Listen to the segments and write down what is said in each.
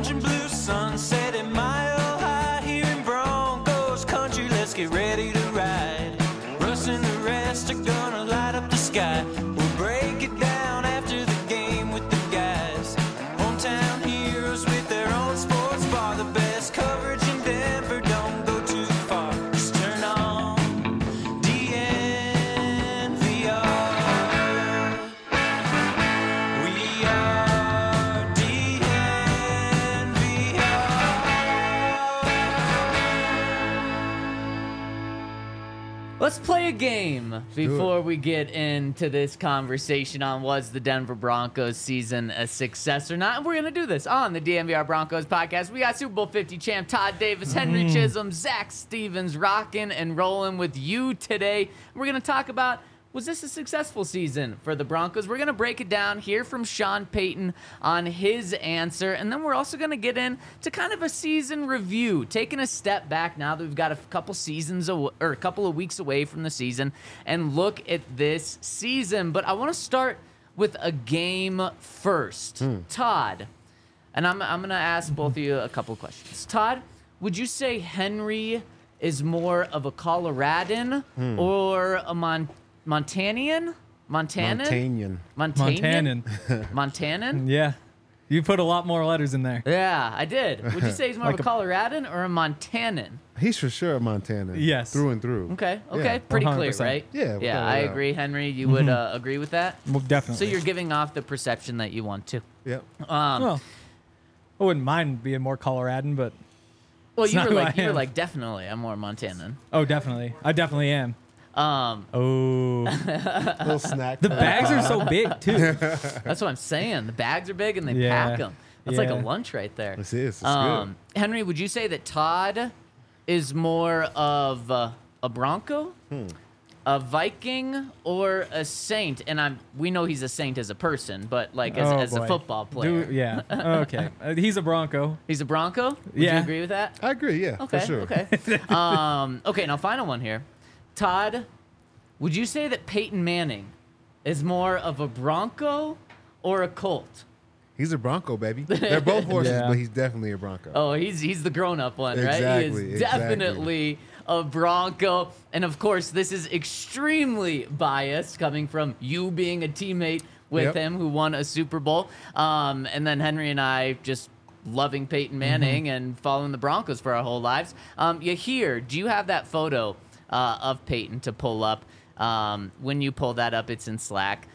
orange and blue sunset at Mile High here in Broncos country. Let's get ready to ride. Russ and the rest are gonna light up the sky. We'll break it down after the game with the guys. Hometown heroes with their own sports bar. The best coverage in Denver, don't go too far. Just turn on DNVR. We are DNVR. Let's play a game before we get into this conversation on was the Denver Broncos season a success or not. And we're going to do this on the DNVR Broncos podcast. We got Super Bowl 50 champ Todd Davis, Henry Chisholm, Zach Stevens rocking and rolling with you today. We're going to talk about, was this a successful season for the Broncos? We're going to break it down, hear from Sean Payton on his answer, and then we're also going to get into kind of a season review, taking a step back now that we've got a couple seasons or a couple of weeks away from the season, and look at this season. But I want to start with a game first. Todd, and I'm going to ask both of you a couple of questions. Todd, would you say Henry is more of a Coloradan or a Montanian? Montanian. Montanan? Yeah. You put a lot more letters in there. Yeah, I did. Would you say he's more Like of a Coloradan or a Montanan? He's for sure a Montanan. Yes. Through and through. Okay, Yeah. pretty clear, 100%. right? Yeah, Yeah, I agree. Henry, you would agree with that? Well, definitely. So you're giving off the perception that you want to. Yep. Well, I wouldn't mind being more Coloradan, but Well, it's you not were who like, I am. definitely, I'm more Montanan. oh, definitely. I definitely am. Um, Oh. Little snack. The bags are so big, too. that's what I'm saying. The bags are big and they Yeah. pack them. That's like a Yeah. lunch right there. This is. It's good. Henry, would you say that Todd is more of a Bronco, a Viking, or a Saint? And we know he's a Saint as a person, but like as a boy. football player. Yeah. Okay. He's a Bronco. He's a Bronco? Would you Yeah. agree with that? I agree. Yeah. Okay, For sure. okay. Okay, now final one here. Todd, would you say that Peyton Manning is more of a Bronco or a Colt? He's a Bronco, baby. They're both horses, Yeah. but he's definitely a Bronco. Oh, he's the grown-up one, right? He Exactly, is definitely a Bronco. And of course, this is extremely biased coming from you being a teammate with Yep. him who won a Super Bowl. And then Henry and I just loving Peyton Manning and following the Broncos for our whole lives. Do you have that photo of Peyton to pull up? When you pull that up, it's in Slack.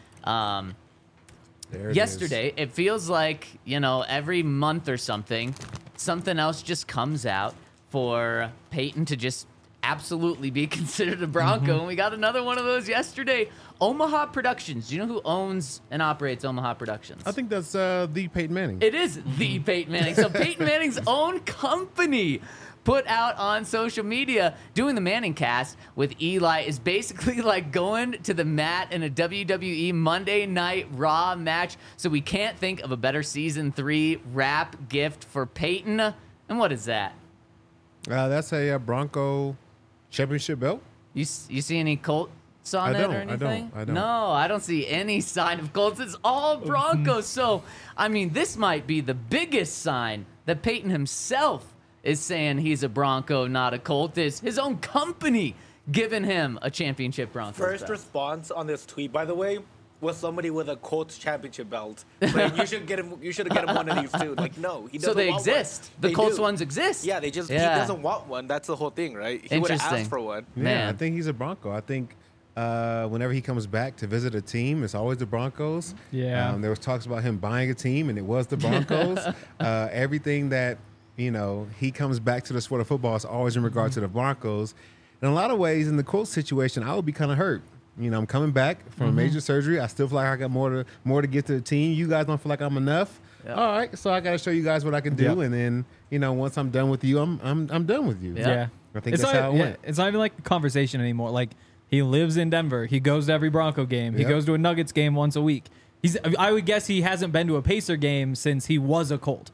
There it Yesterday, it feels like, every month or something else just comes out for Peyton to just absolutely be considered a Bronco. And we got another one of those yesterday. Omaha Productions. Do you know who owns and operates Omaha Productions? I think that's the Peyton Manning. It is the Peyton Manning. So Peyton Manning's own company put out on social media doing the Manning cast with Eli is basically like going to the mat in a WWE Monday Night Raw match. So we can't think of a better season 3 wrap gift for Peyton. And what is that? That's a Bronco championship belt. You see any Colts on I it don't, or I don't, anything? I don't. No, I don't see any sign of Colts. It's all Broncos. So, I mean, this might be the biggest sign that Peyton himself is saying he's a Bronco, not a Colt. Is his own company giving him a championship Broncos First belt. response on this tweet, by the way, was somebody with a Colts championship belt. Like, you should get him one of these too. Like, no, he doesn't So they want exist. One. The They Colts do. ones exist. Yeah, he doesn't want one. That's the whole thing, right? He would have Interesting. asked for one. Yeah, Man. I think he's a Bronco. I think whenever he comes back to visit a team, it's always the Broncos. Yeah. There was talks about him buying a team, and it was the Broncos. Everything that, he comes back to the sport of football is always in regard to the Broncos. In a lot of ways, in the Colts situation, I would be kind of hurt. I'm coming back from a major surgery. I still feel like I got more to get to the team. You guys don't feel like I'm enough. Yep. All right, so I got to show you guys what I can do, Yep. and then once I'm done with you, I'm done with you. Yeah. Yeah. I think It's that's not, how it went. It's not even like a conversation anymore. Like, he lives in Denver. He goes to every Bronco game. He Yep. goes to a Nuggets game once a week. I would guess he hasn't been to a Pacer game since he was a Colt.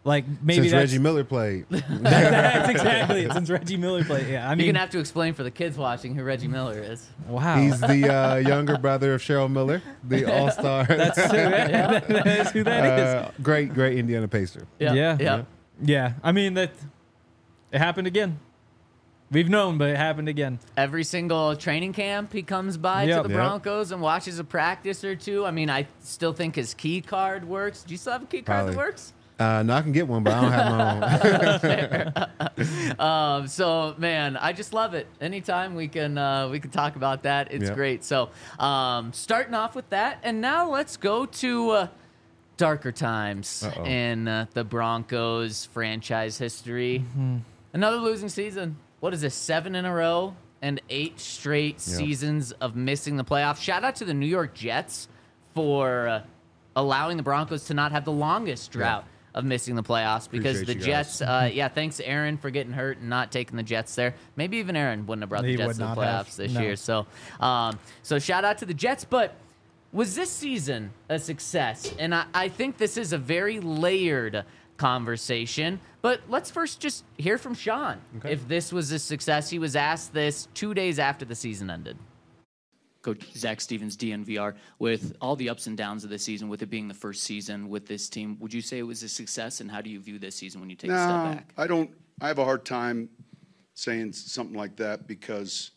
Like maybe Since that's Reggie Miller played. that's exactly it. Since Reggie Miller played. Yeah, I You're mean, gonna have to explain for the kids watching who Reggie Miller is. wow. He's the younger brother of Cheryl Miller, the All-Star. That's who that is. Great Indiana Pacer. Yeah. I mean that it happened again. We've known, but it happened again. Every single training camp he comes by to Yep. the Yep. Broncos and watches a practice or two. I mean, I still think his key card works. Do you still have a key card that Probably. works? No, I can get one, but I don't have my own. So man, I just love it. Anytime we can talk about that, it's Yep. great. So starting off with that, and now let's go to darker times Uh-oh. in the Broncos franchise history. Another losing season. What is this? 7 in a row and 8 straight seasons of missing the playoffs. Shout out to the New York Jets for allowing the Broncos to not have the longest drought of missing the playoffs because Appreciate the you guys. Jets, thanks Aaron for getting hurt and not taking the Jets there. Maybe even Aaron wouldn't have brought the He Jets would to the not have. playoffs this No. year. So, so shout out to the Jets. But was this season a success? And I think this is a very layered conversation. But let's first just hear from Sean. Okay. If this was a success, he was asked this 2 days after the season ended. Coach Zach Stevens, DNVR, with all the ups and downs of the season, with it being the first season with this team, would you say it was a success? And how do you view this season when you take a step back? I don't. I have a hard time saying something like that because,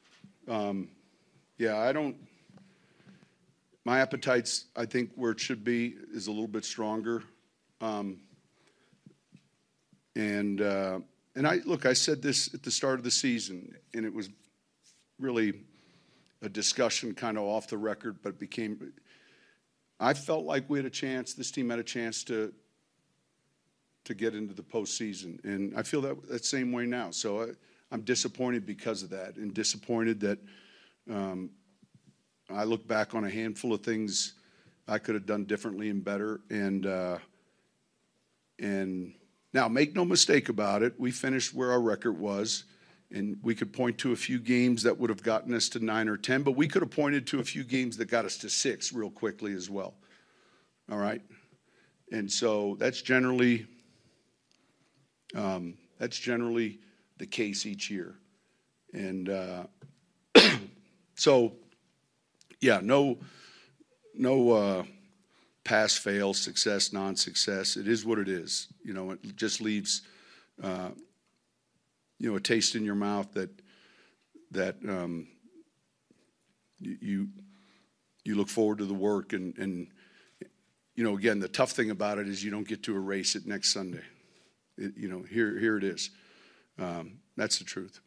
I don't. My appetite's, I think, where it should be is a little bit stronger. And I said this at the start of the season, and it was really a discussion kind of off the record, but it became. I felt like we had a chance. This team had a chance to get into the postseason, and I feel that same way now. So I'm disappointed because of that, and disappointed that I look back on a handful of things I could have done differently and better, and now make no mistake about it, we finished where our record was. And we could point to a few games that would have gotten us to 9 or 10, but we could have pointed to a few games that got us to 6 real quickly as well. All right? And so that's generally the case each year. And no pass, fail, success, non-success. It is what it is. It just leaves a taste in your mouth that you look forward to the work and again, the tough thing about it is you don't get to erase it next Sunday. Here it is. That's the truth.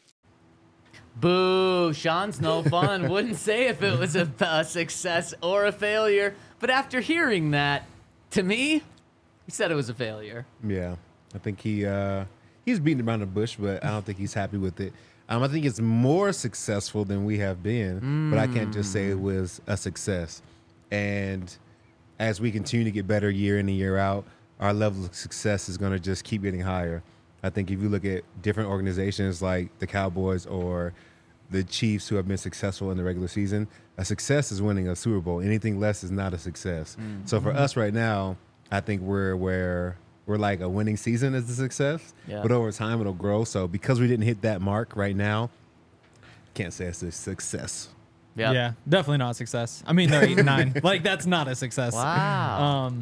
Boo, Sean's no fun. Wouldn't say if it was a success or a failure. But after hearing that, to me, he said it was a failure. Yeah, I think he's beating around the bush, but I don't think he's happy with it. I think it's more successful than we have been, but I can't just say it was a success. And as we continue to get better year in and year out, our level of success is going to just keep getting higher. I think if you look at different organizations like the Cowboys or the Chiefs who have been successful in the regular season, a success is winning a Super Bowl. Anything less is not a success. So for us right now, I think we're like a winning season is a success, but over time it'll grow. So because we didn't hit that mark right now, can't say it's a success. Yep. Yeah, definitely not a success. I mean, they're 8-9. Like that's not a success. Wow.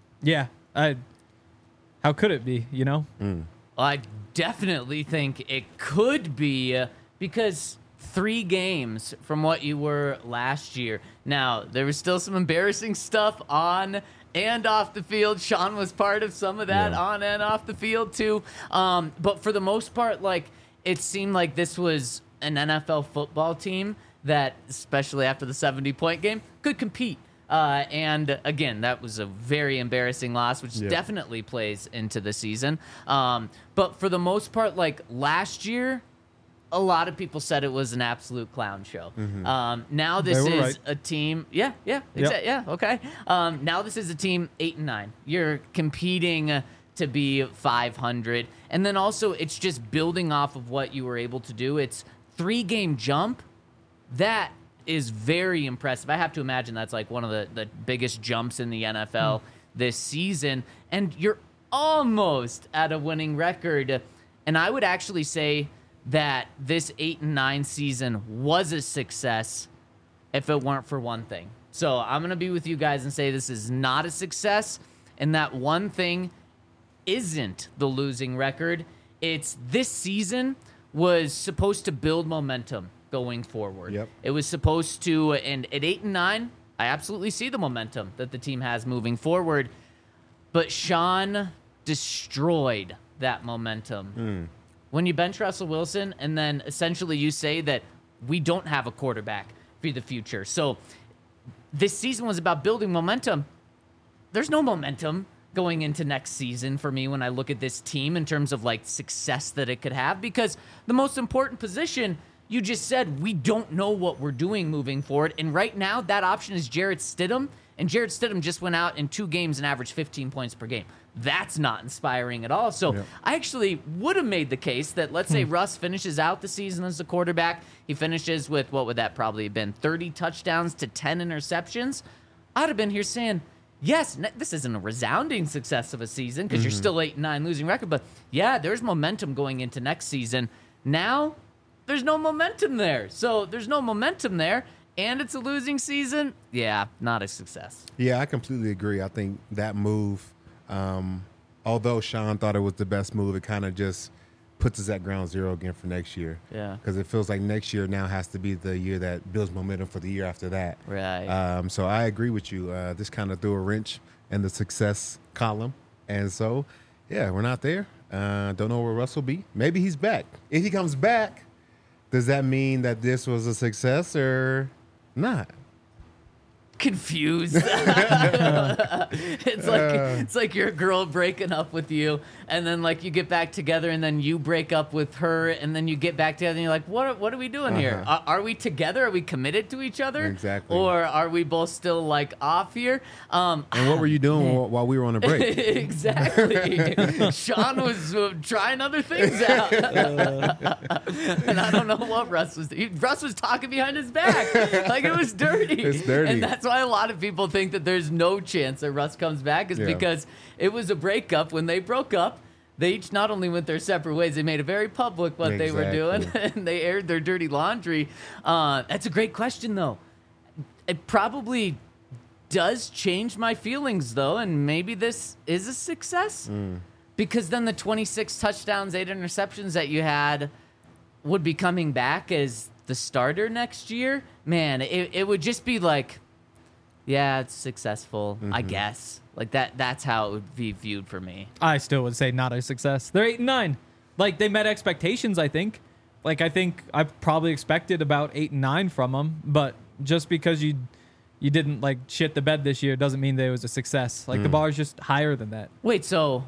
How could it be? I definitely think it could be because 3 games from what you were last year. Now, there was still some embarrassing stuff on and off the field. Sean was part of some of that on and off the field too. But for the most part, it seemed like this was an NFL football team that, especially after the 70-point game, could compete. And again, that was a very embarrassing loss, which definitely plays into the season. But for the most part, last year, a lot of people said it was an absolute clown show. Now this is right. a team. Okay. Now this is a team 8-9. You're competing to be 500, and then also it's just building off of what you were able to do. It's 3-game jump. That is very impressive. I have to imagine that's one of the biggest jumps in the NFL this season. And you're almost at a winning record. And I would actually say that this 8-9 season was a success if it weren't for one thing. So I'm going to be with you guys and say this is not a success, and that one thing isn't the losing record. It's this season was supposed to build momentum going forward. Yep. It was supposed to, and at 8-9, I absolutely see the momentum that the team has moving forward. But Sean destroyed that momentum. When you bench Russell Wilson and then essentially you say that we don't have a quarterback for the future. So this season was about building momentum. There's no momentum going into next season for me when I look at this team in terms of like success that it could have, because the most important position, you just said, we don't know what we're doing moving forward. And right now that option is Jarrett Stidham. And Jarrett Stidham just went out in 2 games and averaged 15 points per game. That's not inspiring at all. So I actually would have made the case that, let's say Russ finishes out the season as a quarterback. He finishes with, what would that probably have been, 30 touchdowns to 10 interceptions. I'd have been here saying, yes, this isn't a resounding success of a season because you're still 8-9 losing record. But yeah, there's momentum going into next season. Now, there's no momentum there. So there's no momentum there. And it's a losing season. Yeah, not a success. Yeah, I completely agree. I think that move, although Sean thought it was the best move, it kind of just puts us at ground zero again for next year. Yeah. Because it feels like next year now has to be the year that builds momentum for the year after that. Right. So I agree with you. This kind of threw a wrench in the success column. And so, yeah, we're not there. Don't know where Russ will be. Maybe he's back. If he comes back, does that mean that this was a success or not? Confused. It's like your girl breaking up with you, and then like you get back together, and then you break up with her, and then you get back together, and you're like, what are we doing here? Are we together? Are we committed to each other? Exactly. Or are we both still like off here? And what were you doing while we were on a break? Exactly. Sean was trying other things out. And I don't know what Russ was doing. Russ was talking behind his back. Like it was dirty. It's dirty. And that's why a lot of people think that there's no chance that Russ comes back is because it was a breakup. When they broke up, they each not only went their separate ways, they made it very public what they were doing, and they aired their dirty laundry. That's a great question, though. It probably does change my feelings, though, and maybe this is a success. Because then the 26 touchdowns, 8 interceptions that you had would be coming back as the starter next year. Man, it would just be like, yeah, it's successful, I guess. Like that's how it would be viewed for me. I still would say not a success. They're 8-9. Like they met expectations, I think. Like I think I probably expected about 8-9 from them, but just because you didn't like shit the bed this year doesn't mean that it was a success. Like the bar is just higher than that. Wait, so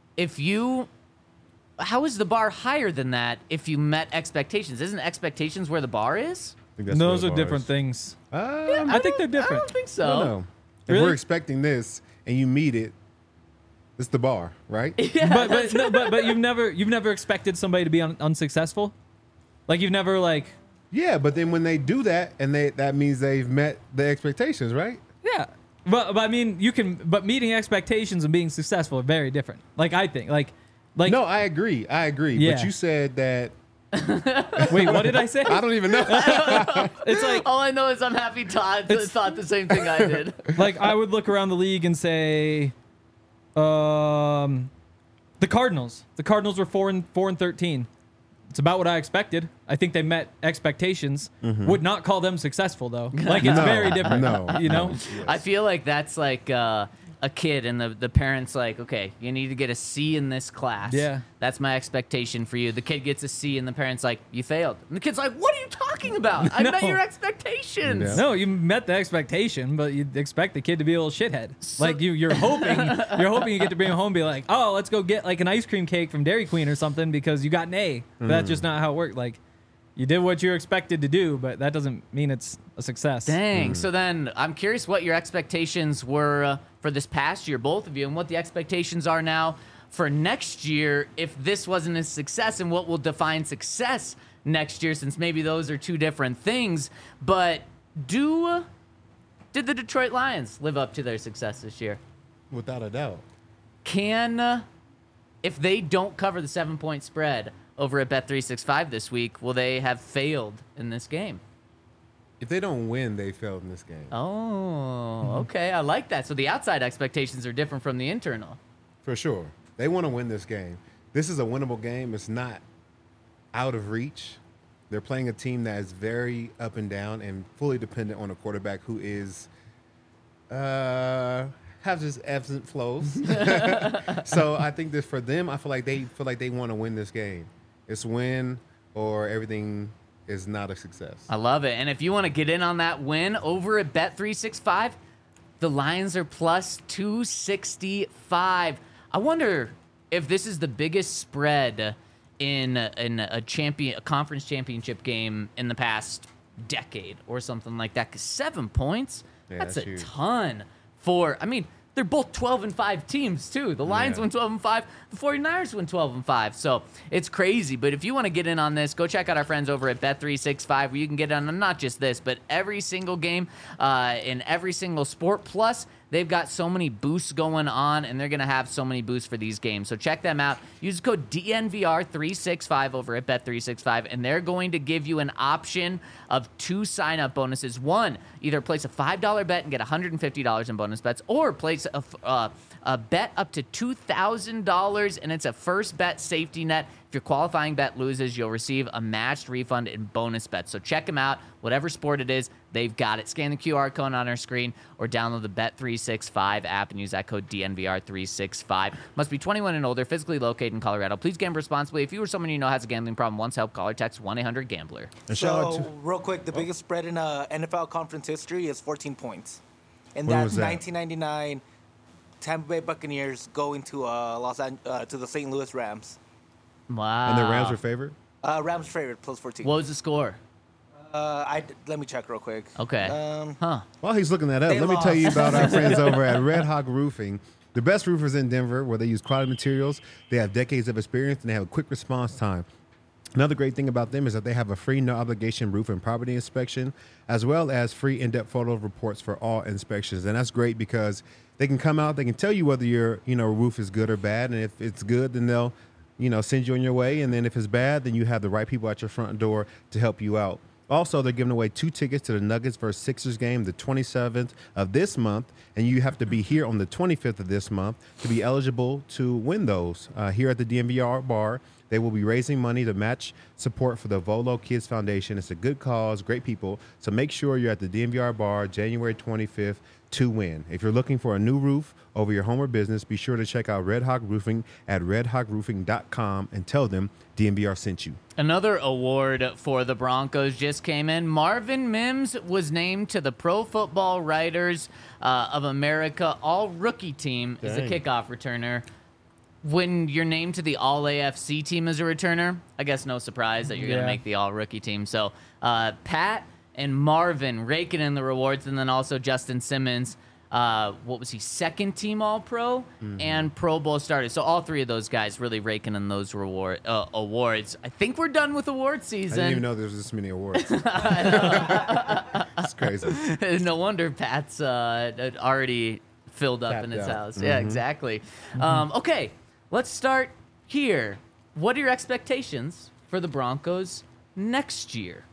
how is the bar higher than that if you met expectations? Isn't expectations where the bar is? I think that's Those where are the bar different is. things. I think they're I different. don't think so. don't know. If Really? we're expecting this and you meet it, it's the bar, right? But you've never expected somebody to be unsuccessful. Like you've never like. Yeah, but then when they do that, and that means they've met the expectations, right? Yeah. But I mean, but meeting expectations and being successful are very different. Like I think, like. No, I agree. Yeah. But you said that. Wait, what did I say? I don't even know. It's like All I know is I'm happy Todd thought the same thing I did. like I would look around the league and say, the Cardinals. The Cardinals were 4-13. It's about what I expected. I think they met expectations. Would not call them successful though. Like it's very different. No, you know. I feel like that's like a kid and the parents like, okay, you need to get a C in this class. Yeah. That's my expectation for you. The kid gets a C and the parent's like, you failed. And the kid's like, what are you talking about? I met No. your expectations. Yeah. No, you met the expectation, but you expect the kid to be a little shithead. Like you're hoping you get to bring him home and be like, oh, let's go get like an ice cream cake from Dairy Queen or something because you got an A. But that's just not how it worked. Like you did what you're expected to do, but that doesn't mean it's a success. Dang. So then I'm curious what your expectations were for this past year, both of you, and what the expectations are now for next year if this wasn't a success, and what will define success next year, since maybe those are two different things. But did the Detroit Lions live up to their success this year? Without a doubt. Can if they don't cover the 7-point spread over at Bet365 this week, will they have failed in this game? If they don't win, they failed in this game. Oh, okay. I like that. So the outside expectations are different from the internal. For sure. They want to win this game. This is a winnable game. It's not out of reach. They're playing a team that is very up and down and fully dependent on a quarterback who is have just ebbs and flows. So I think that for them, I feel like they want to win this game. It's win or everything is not a success. I love it. And if you want to get in on that win over at Bet365, the Lions are plus 265. I wonder if this is the biggest spread in a conference championship game in the past decade or something like that. Because 7 points, Yeah, that's that's a huge. ton for, I mean, they're both 12-5 teams too. The Lions win 12-5. The 49ers win 12-5. So it's crazy. But if you want to get in on this, go check out our friends over at Bet365, where you can get in on not just this, but every single game in every single sport. Plus, they've got so many boosts going on, and they're going to have so many boosts for these games. So check them out. Use code DNVR365 over at Bet365, and they're going to give you an option of 2 sign-up bonuses. One, either place a $5 bet and get $150 in bonus bets, or place a bet up to $2,000, and it's a first bet safety net. If your qualifying bet loses, you'll receive a matched refund in bonus bets. So check them out. Whatever sport it is, they've got it. Scan the QR code on our screen or download the Bet365 app and use that code DNVR365. Must be 21 and older, physically located in Colorado. Please gamble responsibly. If you or someone you know has a gambling problem, once help, call or text 1-800-GAMBLER. And shout out So, to real quick, the biggest spread in NFL conference history is 14 points. And When that's was that? 1999 Tampa Bay Buccaneers going to to the St. Louis Rams. Wow. and the Rams were favored. Rams favorite plus 14. What was the score? Let me check real quick. Okay. Huh. While he's looking that up, They let me tell you lost. about our friends over at Red Hawk Roofing. The best roofers in Denver, where they use quality materials. They have decades of experience, and they have a quick response time. Another great thing about them is that they have a free, no-obligation roof and property inspection, as well as free in-depth photo reports for all inspections. And that's great because they can come out, they can tell you whether your roof is good or bad, and if it's good, then they'll send you on your way, and then if it's bad, then you have the right people at your front door to help you out. Also, they're giving away 2 tickets to the Nuggets vs. Sixers game the 27th of this month, and you have to be here on the 25th of this month to be eligible to win those. Here at the DNVR bar, they will be raising money to match support for the Volo Kids Foundation. It's a good cause, great people, so make sure you're at the DNVR bar January 25th to win. If you're looking for a new roof over your home or business, be sure to check out Red Hawk Roofing at redhawkroofing.com and tell them DNVR sent you. Another award for the Broncos just came in. Marvin Mims was named to the Pro Football Writers of America All-Rookie Team as a Dang. kickoff returner. When you're named to the All-AFC team as a returner, I guess no surprise that you're going to Yeah. make the All-Rookie team. So Pat and Marvin raking in the rewards, and then also Justin Simmons, what was he, second team All-Pro and Pro Bowl starter. So all 3 of those guys really raking in those awards. I think we're done with award I season. didn't even know there was this many awards. It's crazy. No wonder Pat's already filled up Tapped in his out. house. Yeah, exactly. Okay, let's start here. What are your expectations for the Broncos next year?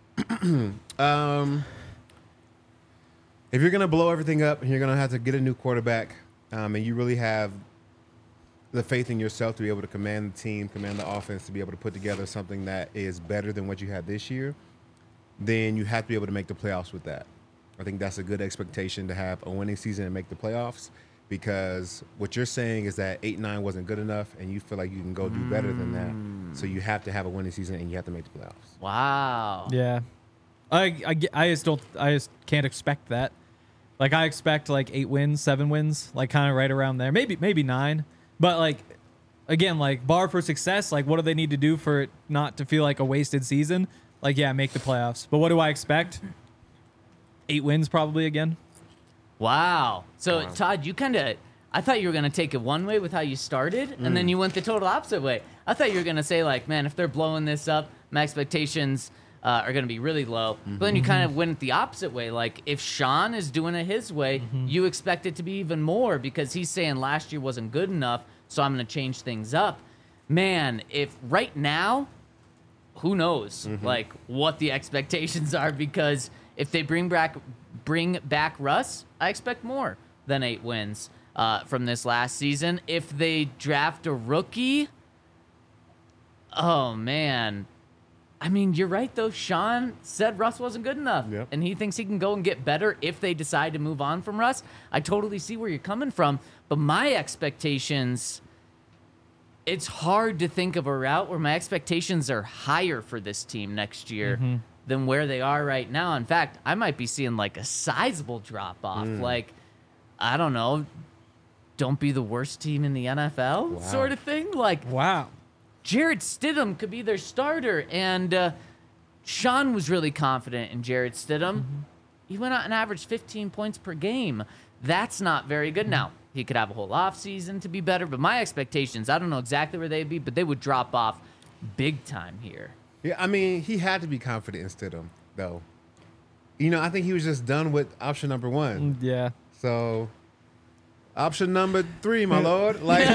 If you're going to blow everything up and you're going to have to get a new quarterback, and you really have the faith in yourself to be able to command the team, command the offense, to be able to put together something that is better than what you had this year, then you have to be able to make the playoffs with that. I think that's a good expectation, to have a winning season and make the playoffs, because what you're saying is that 8-9 wasn't good enough, and you feel like you can go do better than that. So you have to have a winning season, and you have to make the playoffs. Wow. Yeah, I just can't expect that. Like, I expect like 8 wins, 7 wins, like kind of right around there. Maybe 9. But like, again, like bar for success, like what do they need to do for it not to feel like a wasted season? Like, yeah, make the playoffs. But what do I expect? 8 wins probably again. Wow. So, Todd, you I thought you were going to take it one way with how you started, and then you went the total opposite way. I thought you were going to say, like, man, if they're blowing this up, my expectations are going to be really low. But then you kind of went the opposite way. Like, if Sean is doing it his way, you expect it to be even more, because he's saying last year wasn't good enough. so I'm going to change things up. Man, if right now, who knows, like, what the expectations are, because if they bring back Russ, I expect more than 8 wins from this last season. If they draft a rookie, oh, man. I mean, you're right, though. Sean said Russ wasn't good enough, Yep. and he thinks he can go and get better if they decide to move on from Russ. I totally see where you're coming from, but my expectations, it's hard to think of a route where my expectations are higher for this team next year than where they are right now. In fact, I might be seeing like a sizable drop-off. Like, I don't know, don't be the worst team in the NFL sort of thing. Like, Wow. Jarrett Stidham could be their starter, and Sean was really confident in Jarrett Stidham. He went out and averaged 15 points per game. That's not very good. Now, he could have a whole offseason to be better, but my expectations, I don't know exactly where they'd be, but they would drop off big time here. Yeah, I mean, he had to be confident in Stidham, though. You know, I think he was just done with option number 1. Yeah. So, option number 3, my lord. Like,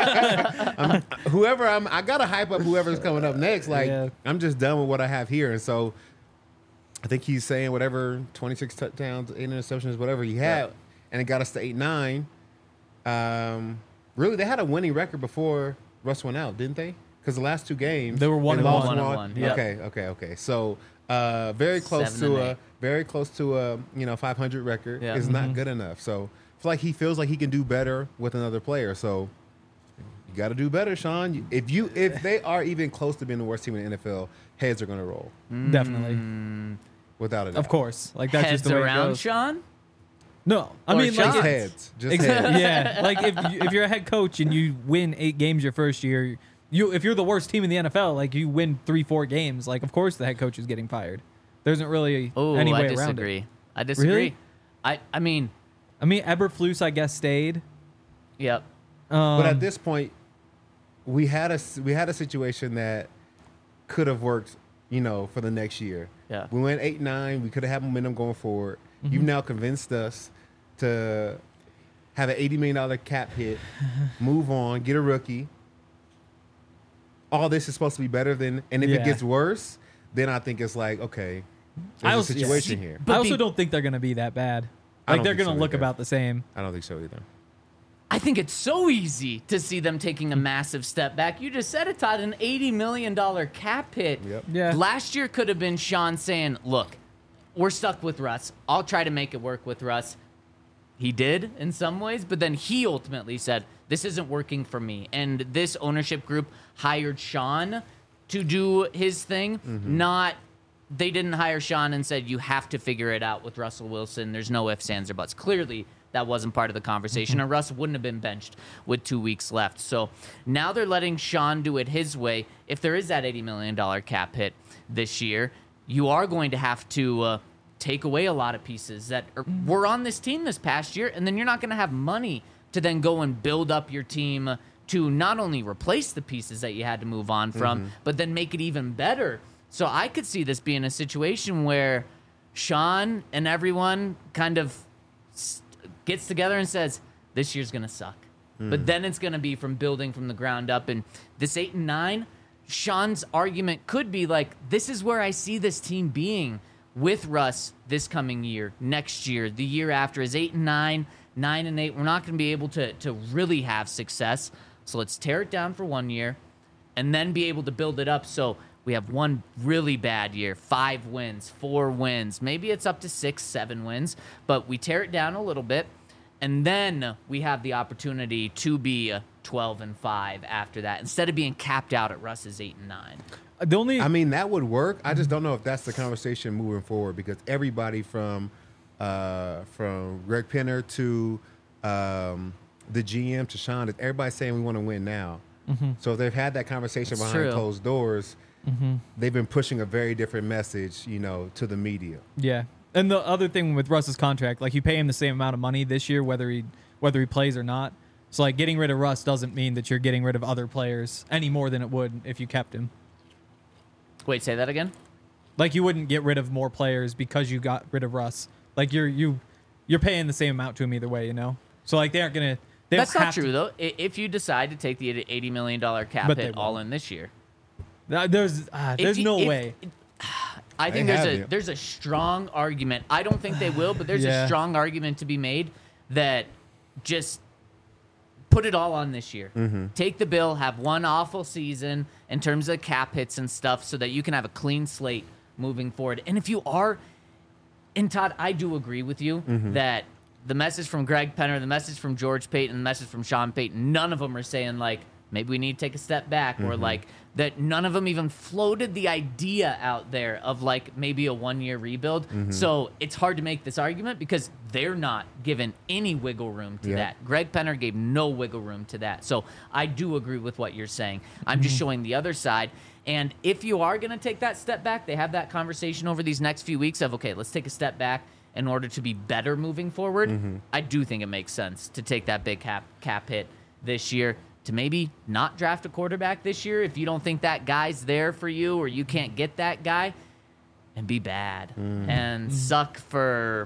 I gotta hype up whoever's coming up next. Like, Yeah. I'm just done with what I have here, and so I think he's saying whatever 26 touchdowns, 8 interceptions, whatever he had, and it got us to 8-9. Really, they had a winning record before Russ went out, didn't they? Because the last 2 games They were 1-1. lost 1-1, yep. Okay. So very close 7-8. to a 500 record Yeah. is not good enough. So I feel like he feels like he can do better with another player. So you got to do better, Sean. If they are even close to being the worst team in the NFL, heads are going to roll Definitely. without a doubt. Of course. Like, that's Heads just the way it around goes. Sean? No. I Or mean, Sean? like, Just if- heads. Just heads. yeah. Like, if you're a head coach and you win 8 games your first year, if you're the worst team in the NFL, like, you win 3-4 games, like, of course the head coach is getting fired. There isn't really Oh, any I way around disagree. it. I disagree. Really? I mean, I mean, Eberflus, I guess, stayed. yep. But at this point, we had a situation that could have worked, for the next year. Yeah. We went 8-9. We could have had momentum going forward. You've now convinced us to have an $80 million cap hit, move on, get a rookie. All this is supposed to be better than, and if it Yeah. gets worse, then I think it's like, okay, I there's a also- situation here. But I also be- don't think they're going to be that bad. I Like, don't they're think going to so look either. about the same. I don't think so either. I think it's so easy to see them taking a massive step back. You just said it, Todd, an $80 million cap hit. Yep. Yeah. Last year could have been Sean saying, look, we're stuck with Russ. I'll try to make it work with Russ. He did in some ways, but then he ultimately said, this isn't working for me. And this ownership group hired Sean to do his thing, they didn't hire Sean and said, you have to figure it out with Russell Wilson. There's no ifs, ands, or buts. Clearly, that wasn't part of the conversation, and Russ wouldn't have been benched with 2 weeks left. So now they're letting Sean do it his way. If there is that $80 million cap hit this year, you are going to have to take away a lot of pieces that were on this team this past year, and then you're not going to have money to then go and build up your team to not only replace the pieces that you had to move on from, but then make it even better. So I could see this being a situation where Sean and everyone kind of gets together and says, this year's going to suck. But then it's going to be from building from the ground up. And this 8-9, Sean's argument could be like, this is where I see this team being with Russ this coming year, next year, the year after is 8-9, 9-8. We're not going to be able to really have success. So let's tear it down for 1 year and then be able to build it up. So we have one really bad year, 5 wins, 4 wins. Maybe it's up to 6, 7 wins, but we tear it down a little bit. And then we have the opportunity to be 12-5 after that, instead of being capped out at Russ's 8-9. The only I mean, that would work. I just don't know if that's the conversation moving forward, because everybody from Greg Penner to the GM to Sean, everybody's saying we want to win now. So if they've had that conversation That's behind true. closed doors, they've been pushing a very different message, to the media. Yeah. And the other thing with Russ's contract, like, you pay him the same amount of money this year, whether he plays or not. So, like, getting rid of Russ doesn't mean that you're getting rid of other players any more than it would if you kept him. Wait, say that again? Like, you wouldn't get rid of more players because you got rid of Russ. Like, you're paying the same amount to him either way, So, like, they're That's not true, though. If you decide to take the $80 million cap But they hit all won't. in this year. There's no way. I think They have there's a strong argument. I don't think they will, but there's Yeah. a strong argument to be made that just put it all on this year. Take the bill, have one awful season in terms of cap hits and stuff so that you can have a clean slate moving forward. And if you are, and Todd, I do agree with you that the message from Greg Penner, the message from George Payton, the message from Sean Payton, none of them are saying, like, maybe we need to take a step back or, like, that none of them even floated the idea out there of, like, maybe a one-year rebuild. So it's hard to make this argument because they're not given any wiggle room to that. Greg Penner gave no wiggle room to that. So I do agree with what you're saying. I'm just showing the other side. And if you are going to take that step back, they have that conversation over these next few weeks of, okay, let's take a step back in order to be better moving forward. I do think it makes sense to take that big cap hit this year, to maybe not draft a quarterback this year if you don't think that guy's there for you or you can't get that guy, and be bad and suck for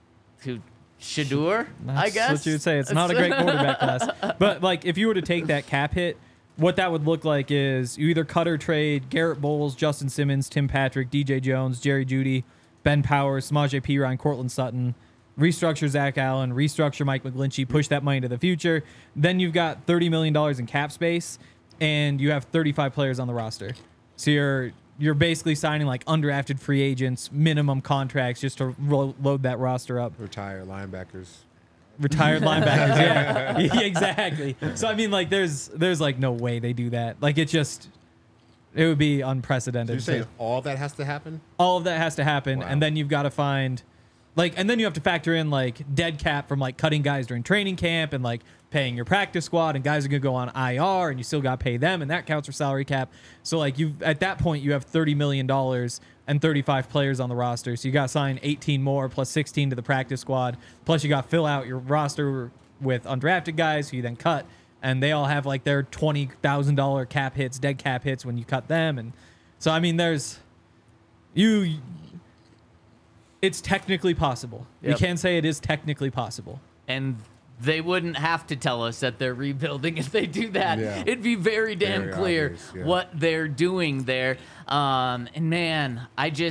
Shador, I guess. That's what you would say. It's not a great quarterback class. But, like, if you were to take that cap hit, what that would look like is you either cut or trade Garrett Bowles, Justin Simmons, Tim Patrick, DJ Jones, Jerry Jeudy, Ben Powers, Samaje Perine, Cortland Sutton, restructure Zach Allen, restructure Mike McGlinchey, push that money to the future. Then you've got $30 million in cap space, and you have 35 players on the roster. So you're basically signing, like, undrafted free agents, minimum contracts just to load that roster up. Retired linebackers. Retired linebackers, yeah. Yeah, exactly. So, I mean, like, there's like, no way they do that. Like, it would be unprecedented. You're saying all that has to happen? All of that has to happen, Wow. and then you've got to find, like, and then you have to factor in, like, dead cap from, like, cutting guys during training camp and, like, paying your practice squad, and guys are going to go on IR, and you still got to pay them, and that counts for salary cap. So, like, at that point, you have $30 million and 35 players on the roster. So you got to sign 18 more plus 16 to the practice squad. Plus, you got to fill out your roster with undrafted guys who you then cut, and they all have, like, their $20,000 cap hits, dead cap hits when you cut them. And so, I mean, it's technically possible. We Yep. can say it is technically possible. And they wouldn't have to tell us that they're rebuilding if they do that. Yeah. It'd be very damn Very clear obvious, yeah. what they're doing there. And man,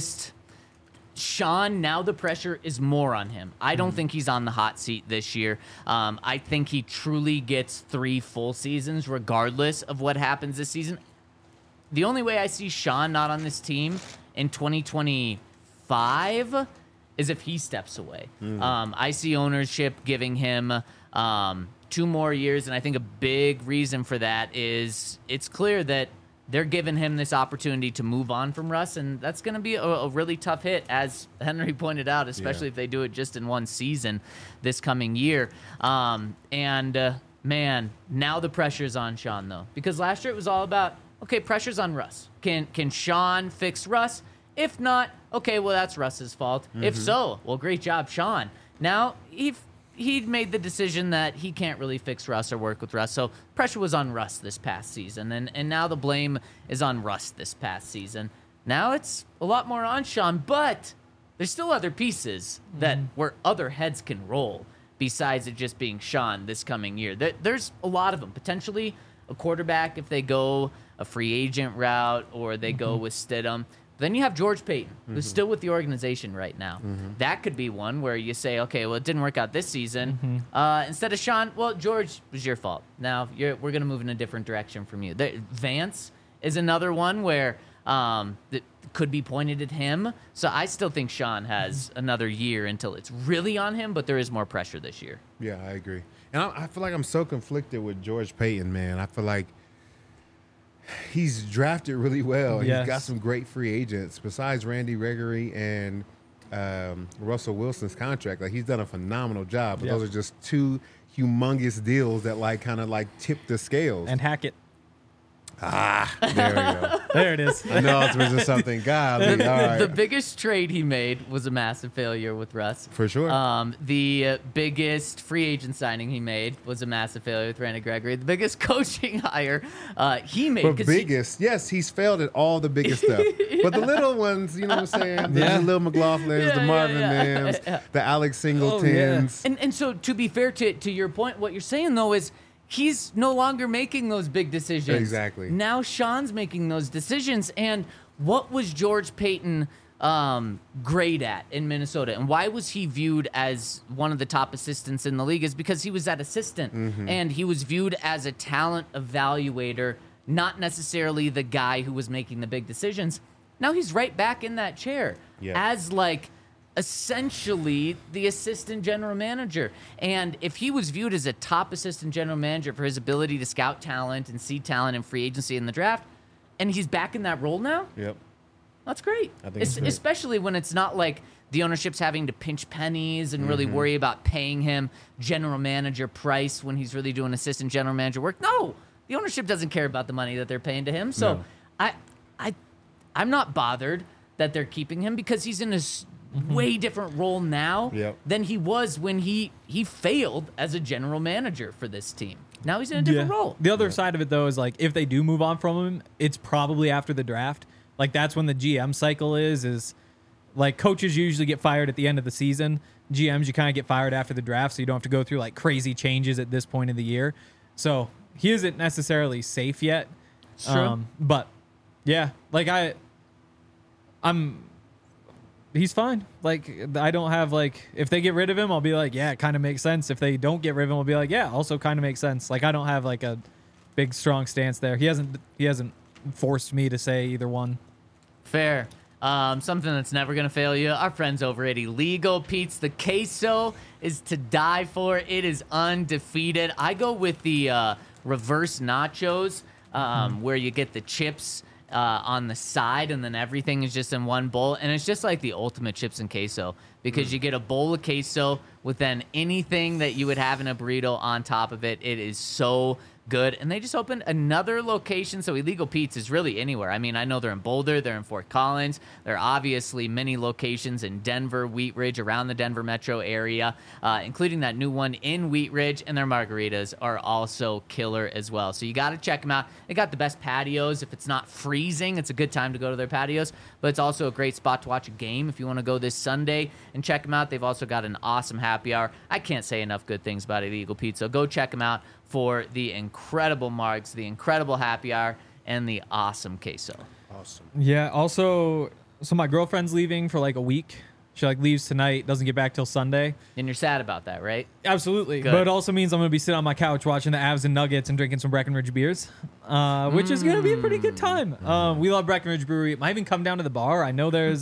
Sean, now the pressure is more on him. I don't think he's on the hot seat this year. I think he truly gets 3 full seasons regardless of what happens this season. The only way I see Sean not on this team in 2025 is if he steps away. I see ownership giving him 2 more years, and I think a big reason for that is it's clear that they're giving him this opportunity to move on from Russ, and that's going to be a really tough hit, as Henry pointed out, especially if they do it just in one season this coming year. Man, now the pressure's on Sean, though, because last year it was all about, okay, pressure's on Russ. Can Sean fix Russ? If not, okay, well, that's Russ's fault. If so, well, great job, Sean. Now, he'd made the decision that he can't really fix Russ or work with Russ, so pressure was on Russ this past season, and now the blame is on Russ this past season. Now it's a lot more on Sean, but there's still other pieces that where other heads can roll besides it just being Sean this coming year. There's a lot of them. Potentially a quarterback if they go a free agent route or they go with Stidham. Then you have George Payton, who's still with the organization right now. That could be one where you say, okay, well, it didn't work out this season. Instead of Sean, well, George, was your fault. Now we're going to move in a different direction from you. Vance is another one where that could be pointed at him. So I still think Sean has another year until it's really on him, but there is more pressure this year. Yeah, I agree. And I feel like I'm so conflicted with George Payton, man. I feel like he's drafted really well. Yes. He's got some great free agents besides Randy Gregory and Russell Wilson's contract. Like, he's done a phenomenal job. But Yep. those are just 2 humongous deals that kind of tip the scales. And Hackett. There we go. There it is. I know I was missing something. Golly, all right. The biggest trade he made was a massive failure with Russ. For sure. The biggest free agent signing he made was a massive failure with Randy Gregory. The biggest coaching hire he made. But 'cause biggest, yes, he's failed at all the biggest stuff. But the little ones, you know what I'm saying? The Lil McLaughlins, the Marvin Mims, the Alex Singletons. And so to be fair to your point, what you're saying though is he's no longer making those big decisions. Exactly. Now Sean's making those decisions. And what was George Payton great at in Minnesota? And why was he viewed as one of the top assistants in the league? Is because he was that assistant. And he was viewed as a talent evaluator, not necessarily the guy who was making the big decisions. Now he's right back in that chair as like essentially the assistant general manager. And if he was viewed as a top assistant general manager for his ability to scout talent and see talent in free agency in the draft, and he's back in that role now, that's great. I think it's great. Especially when it's not like the ownership's having to pinch pennies and really worry about paying him general manager price when he's really doing assistant general manager work. No, the ownership doesn't care about the money that they're paying to him. So I'm not bothered that they're keeping him because he's in a way different role now than he was when he failed as a general manager for this team. Now he's in a different role. The other side of it, though, is like if they do move on from him, it's probably after the draft. Like that's when the GM cycle is like coaches usually get fired at the end of the season. GMs, you kind of get fired after the draft, so you don't have to go through like crazy changes at this point of the year. So he isn't necessarily safe yet. True. But yeah, like he's fine. Like I don't have like if they get rid of him, I'll be like, yeah, it kind of makes sense. If they don't get rid of him, I'll be like, yeah, also kind of makes sense. Like I don't have like a big strong stance there. He hasn't forced me to say either one. Fair. Something that's never going to fail you. Our friends over at Illegal Pete's. The queso is to die for. It is undefeated. I go with the reverse nachos where you get the chips on the side and then everything is just in one bowl. And it's just like the ultimate chips and queso because you get a bowl of queso with then anything that you would have in a burrito on top of it. It is so good. And they just opened another location. So Illegal Pete's is really anywhere. I mean, I know they're in Boulder, they're in Fort Collins. There are obviously many locations in Denver, Wheat Ridge, around the Denver metro area, including that new one in Wheat Ridge. And their margaritas are also killer as well. So you got to check them out. They got the best patios. If it's not freezing, it's a good time to go to their patios. But it's also a great spot to watch a game if you want to go this Sunday and check them out. They've also got an awesome happy hour. I can't say enough good things about Illegal Pete's. So go check them out for the incredible marks, the incredible happy hour, and the awesome queso. Awesome. Yeah. Also, so my girlfriend's leaving for like a week. She like leaves tonight, doesn't get back till Sunday. And you're sad about that, right? Absolutely. Good. But it also means I'm going to be sitting on my couch watching the Avs and Nuggets and drinking some Breckenridge beers, which is going to be a pretty good time. We love Breckenridge Brewery. It might even come down to the bar. I know there's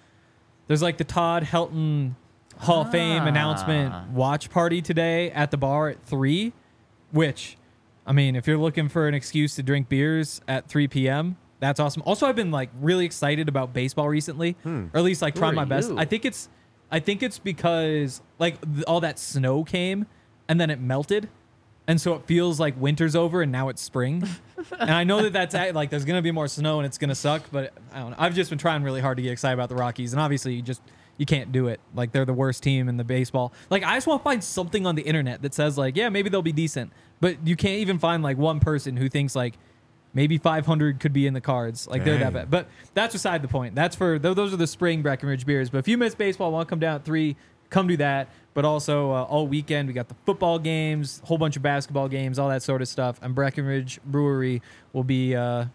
like the Todd Helton Hall of Fame announcement watch party today at the bar at 3. Which, I mean, if you're looking for an excuse to drink beers at 3 p.m., that's awesome. Also, I've been like really excited about baseball recently, or at least like trying my best. I think it's because like all that snow came and then it melted, and so it feels like winter's over and now it's spring. And I know that's like there's gonna be more snow and it's gonna suck, but I don't know. I've just been trying really hard to get excited about the Rockies, and obviously you can't do it. Like they're the worst team in the baseball. Like I just want to find something on the internet that says like, yeah, maybe they'll be decent. But you can't even find like one person who thinks like maybe 500 could be in the cards. Like they're that bad. But that's beside the point. That's for those are the spring Breckenridge beers. But if you miss baseball, want to come down at 3, come do that. But also all weekend we got the football games, whole bunch of basketball games, all that sort of stuff. And Breckenridge Brewery will be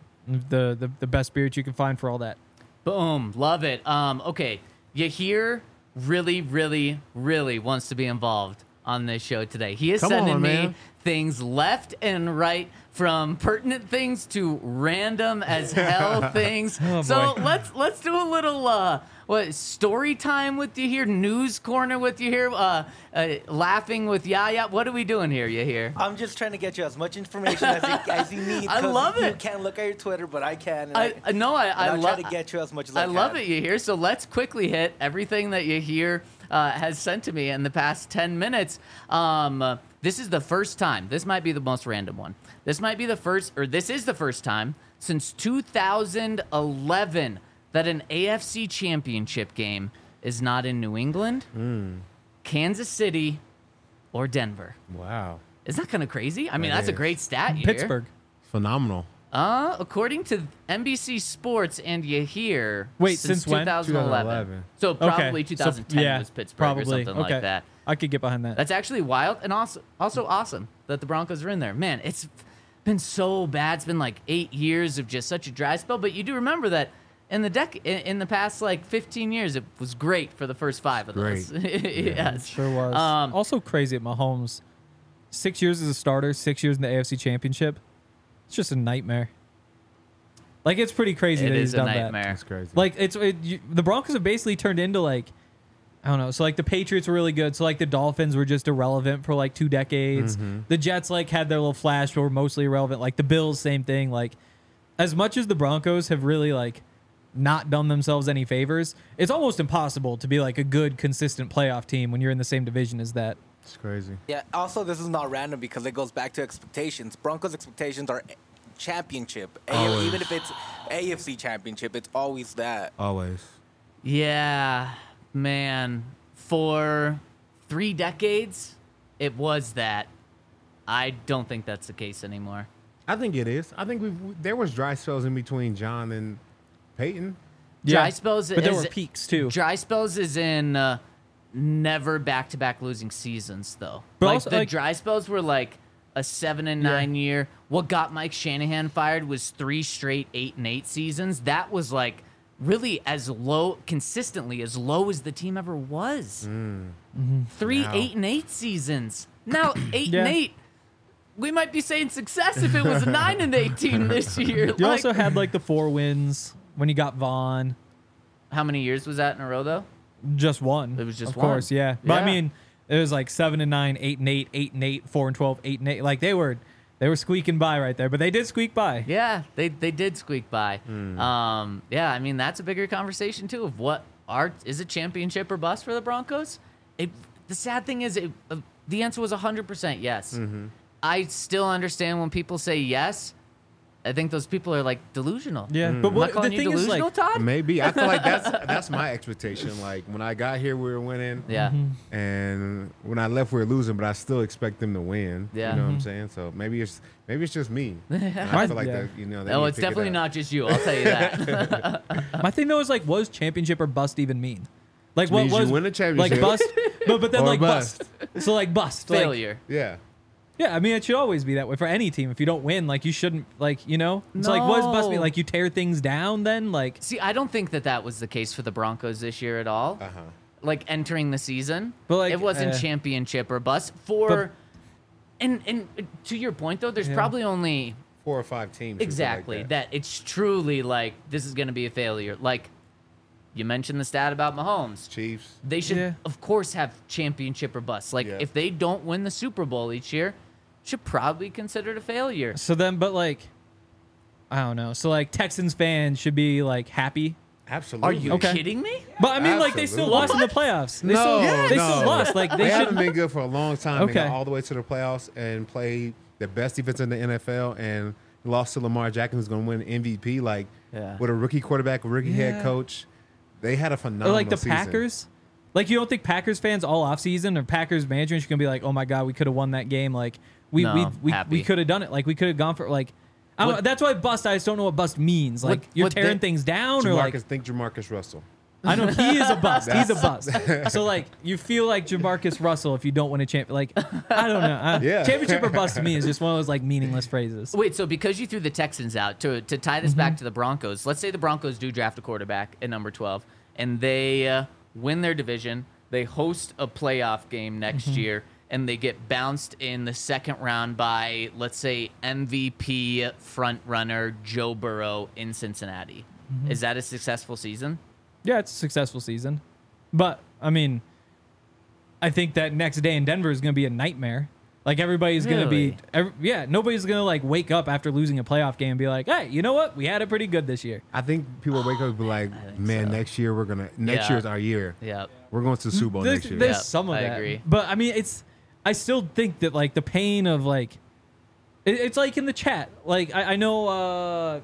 the best spirit you can find for all that. Boom, love it. Okay. Yahir really, really, really wants to be involved on this show today. He is sending me things left and right, from pertinent things to random as hell things. So let's do a little story time with you here, news corner with you here, laughing with Yaya. What are we doing here, Yahir? I'm just trying to get you as much information as you need. I love it. You can't look at your Twitter, but I can. I try to get you as much as I can. I love it, Yahir. So let's quickly hit everything that Yahir has sent to me in the past 10 minutes. This is the first time. This might be the most random one. This is the first time since 2011 that an AFC championship game is not in New England, Kansas City, or Denver. Wow. Isn't that kind of crazy? I mean, That that's a is. great stat here. Pittsburgh. Phenomenal. According to NBC Sports and Yahir, Wait, since when? 2011. So probably Okay. 2010 was Pittsburgh or something okay. like that. I could get behind that. That's actually wild and also awesome that the Broncos are in there. Man, it's been so bad. It's been like 8 years of just such a dry spell. But you do remember that in the past like 15 years, it was great for the first 5 of those. Yes, Sure was. Also crazy at Mahomes. 6 years as a starter, 6 years in the AFC Championship. It's just a nightmare. Like, it's pretty crazy It that he's is a done nightmare. that. That's crazy. Like, the Broncos have basically turned into, like, I don't know. So, like, the Patriots were really good. So, like, the Dolphins were just irrelevant for, like, 2 decades. The Jets, like, had their little flash, but were mostly irrelevant. Like, the Bills, same thing. Like, as much as the Broncos have really, like, not done themselves any favors, it's almost impossible to be, like, a good, consistent playoff team when you're in the same division as that. It's crazy. Yeah. Also, this is not random because it goes back to expectations. Broncos' expectations are championship. Even if it's AFC championship, it's always that. Always. Yeah, man. For 3 decades, it was that. I don't think that's the case anymore. I think it is. I think there was dry spells in between John and Peyton. Dry spells, but there is- were peaks, too. Dry spells is in never back-to-back losing seasons, though. But like also, the like- dry spells were like a 7-9 year. What got Mike Shanahan fired was 3 straight 8-8 seasons. That was like really consistently as low as the team ever was. 3 Now. 8-8 seasons. Now 8-8. Yeah. We might be saying success if it was a 9-8 team this year. You also had, like, the 4 wins when you got Vaughn. How many years was that in a row, though? Just one. It was just of course, one. yeah. But Yeah. I mean, it was like 7-9, 8-8, 8-8, 4-12, 8-8. Like they were squeaking by right there, but they did squeak by. Yeah, they did squeak by. Yeah, I mean that's a bigger conversation too of what is a championship or bust for the Broncos. The sad thing is, the answer was 100% yes. I still understand when people say yes. I think those people are like delusional. Yeah, but Am I what the calling you thing is, delusional, like, Todd? Maybe. I feel like that's my expectation. Like when I got here, we were winning. Yeah. And when I left, we were losing, but I still expect them to win. Yeah. You know what I'm saying? So maybe it's just me. And I feel like Yeah. that, they No, need to it's pick it definitely up. not just you. I'll tell you that. My thing though is like, what does championship or bust even mean? Like, what means you was win a championship. Like bust, but then Or like bust. bust. So like bust, like- Failure. Yeah. yeah, I mean, it should always be that way for any team. If you don't win, like you shouldn't, like you know. It's like, what does bust mean? No. Like you tear things down, then like. See, I don't think that was the case for the Broncos this year at all. Uh-huh. Like entering the season, But, like, it wasn't championship or bust for. And to your point though, there's probably only 4 or 5 teams. or something exactly like that it's truly like this is going to be a failure. Like you mentioned the stat about Mahomes. Chiefs. They should, Yeah. of course, have championship or bust. Like Yeah. if they don't win the Super Bowl each year, should probably be considered a failure. So then, but like, I don't know. So like, Texans fans should be like happy. Absolutely. Are you Okay. kidding me? But I mean, like they still Absolutely. lost in the playoffs. They No, still no. lost. Like They they haven't should. been good for a long time. They got Okay. all the way to the playoffs and played the best defense in the NFL and lost to Lamar Jackson, who's going to win MVP. Like Yeah. with a rookie quarterback, a rookie head Yeah. coach, they had a Or phenomenal like the season. Packers. Like you don't think Packers fans all offseason or Packers management should gonna be like, oh my god, we could have won that game. Like No, we happy. could have done it. Like we could have gone for like. I don't What- know, that's why bust. I just don't know what bust means. Like What- you're what tearing they- things down, or like Think Jamarcus Russell. I know he is a bust. He's a bust. So like you feel like Jamarcus Russell if you don't win a champ. Like I don't know. Yeah. Championship or bust to me is just one of those like meaningless phrases. Wait, so because you threw the Texans out, to tie this back to the Broncos, let's say the Broncos do draft a quarterback at number 12, and they win their division, they host a playoff game next year, and they get bounced in the second round by, let's say, MVP frontrunner Joe Burrow in Cincinnati. Is that a successful season? Yeah, it's a successful season, but I mean, I think that next day in Denver is going to be a nightmare. Like everybody's going to be, nobody's going to like wake up after losing a playoff game and be like, hey, you know what? We had it pretty good this year. I think people wake up and be like, man, next year next Yeah. year's our year. Yeah. We're going to the Super Bowl next year. There's Yeah, some of I that. agree. But I mean, it's I still think that like the pain of like, it's like in the chat. Like I know,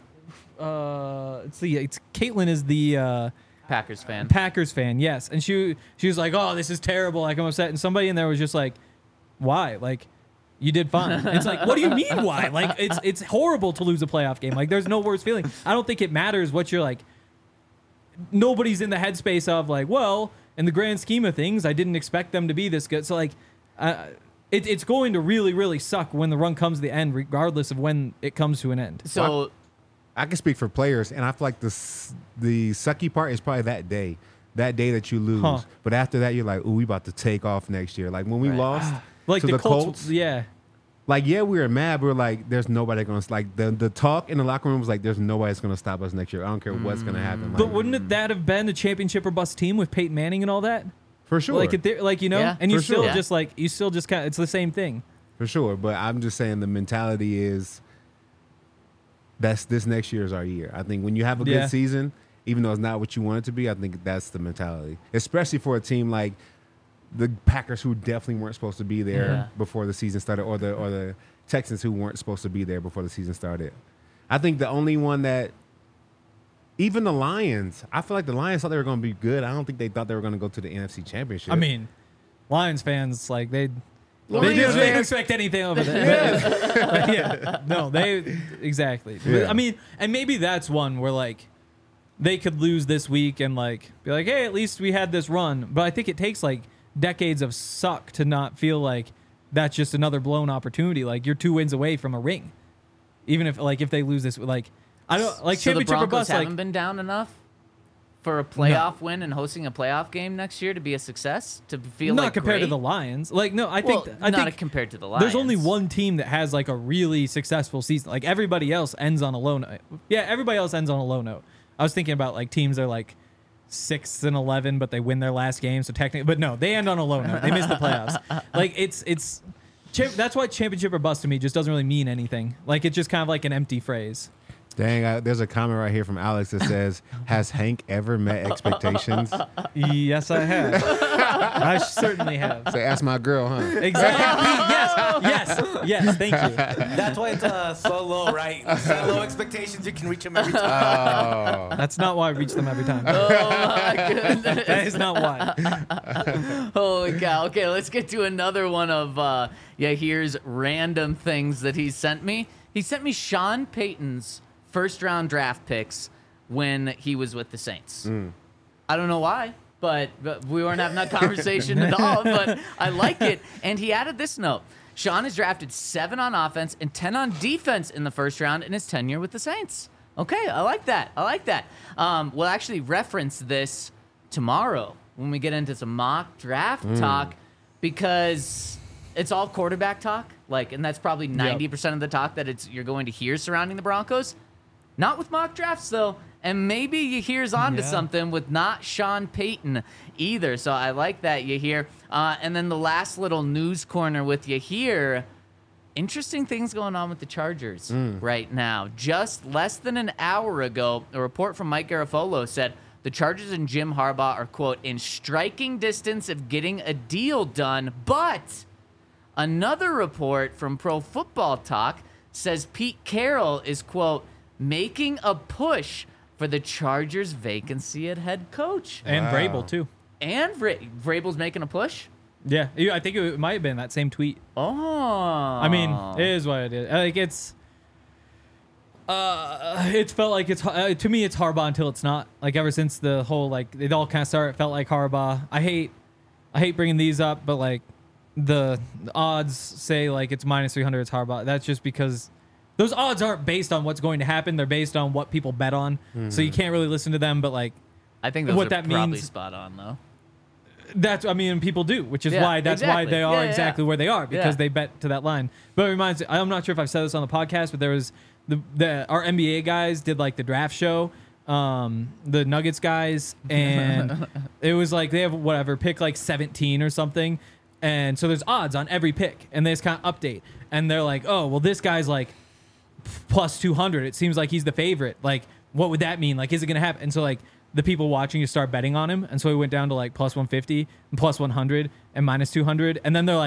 it's Caitlin is the Packers fan. Packers fan, yes, and she was like, "Oh, this is terrible. Like I'm upset." And somebody in there was just like, "Why? Like, you did fine." And it's like, what do you mean why? Like it's horrible to lose a playoff game. Like there's no worse feeling. I don't think it matters what you're like. Nobody's in the headspace of like, well, in the grand scheme of things, I didn't expect them to be this good. So like, it's going to really, really suck when the run comes to the end, regardless of when it comes to an end. So I can speak for players, and I feel like the sucky part is probably that day that you lose. Huh. But after that, you're like, ooh, we about to take off next year. Like when we lost Like to the the Colts, yeah. like, yeah, we were mad. We were like, there's nobody going to, like, the talk in the locker room was like, there's nobody that's going to stop us next year. I don't care what's going to happen. Like, But wouldn't that have been a championship or bust team with Peyton Manning and all that? for sure. Like, like you know, Yeah, and you for still sure. just like, you still just kind of, it's the same thing. For sure. But I'm just saying the mentality is this next year is our year. I think when you have a Yeah. good season, even though it's not what you want it to be, I think that's the mentality. Especially for a team like the Packers, who definitely weren't supposed to be there Yeah. before the season started, or the Texans, who weren't supposed to be there before the season started. I think the only one that, even the Lions, I feel like the Lions thought they were going to be good. I don't think they thought they were going to go to the NFC Championship. I mean, Lions fans, like, they Lions didn't fans- expect anything over there. Yeah. No, exactly. Yeah. I mean, and maybe that's one where, like, they could lose this week and, like, be like, hey, at least we had this run. But I think it takes, like, decades of suck to not feel like that's just another blown opportunity. Like, you're 2 wins away from a ring. Even if, like, if they lose this, like, I don't, like, so the championship or Broncos bust, haven't like, been down enough for a playoff win and hosting a playoff game next year to be a success, to feel not like compared to great? the Lions. Like, no, I Well, think, I not think compared to the Lions. there's only one team that has like a really successful season. Like everybody else ends on a low note. Yeah, everybody else ends on a low note. I was thinking about like teams that are like 6-11, but they win their last game. So technically, but no, they end on a low note. They miss the playoffs. Like that's why championship or bust to me just doesn't really mean anything. Like it's just kind of like an empty phrase. dang, there's a comment right here from Alex that says, has Hank ever met expectations? Yes, I have. I certainly have. Say, ask my girl, huh? Exactly. Yes. Thank you. That's why it's so low, right? Set low expectations, you can reach them every time. Oh. That's not why I reach them every time. Oh my goodness. That is not why. Holy cow. Okay, let's get to another one of here's random things that he sent me. He sent me Sean Payton's first-round draft picks when he was with the Saints. I don't know why, but we weren't having that conversation at all, but I like it. And he added this note. Sean has drafted 7 on offense and 10 on defense in the first round in his tenure with the Saints. Okay, I like that. We'll actually reference this tomorrow when we get into some mock draft talk, because it's all quarterback talk. Like, and that's probably 90% of the talk that you're going to hear surrounding the Broncos. Not with mock drafts, though. And maybe Yahir's onto something with not Sean Payton either. So I like that, Yahir. And then the last little news corner with Yahir. Interesting things going on with the Chargers right now. Just less than an hour ago, a report from Mike Garafolo said the Chargers and Jim Harbaugh are, quote, in striking distance of getting a deal done. But another report from Pro Football Talk says Pete Carroll is, quote, making a push for the Chargers' vacancy at head coach. And Vrabel, too. And Vrabel's making a push? Yeah, I think it might have been that same tweet. Oh. I mean, it is what it is. Like, it's felt like it's, to me, it's Harbaugh until it's not. Like, ever since the whole, like, it all kind of started, it felt like Harbaugh. I hate bringing these up, but, like, the odds say, like, it's minus 300, it's Harbaugh. That's just because those odds aren't based on what's going to happen. They're based on what people bet on. So you can't really listen to them, but, like, I think those what are that probably means- spot on, though. that's, I mean, people do, which is Yeah, why why exactly. they are Yeah, exactly yeah. where they are, because Yeah. they bet to that line. But it reminds me, I'm not sure if I've said this on the podcast, but there was our NBA guys did like the draft show, the Nuggets guys, and it was like they have whatever pick like 17 or something, and so there's odds on every pick, and they just kind of update, and they're like, oh well, this guy's like plus 200. It seems like he's the favorite. Like, what would that mean? Like, is it gonna happen? And so like the people watching you start betting on him, and so he went down to like plus 150 and plus 100 and minus 200, and then they're like,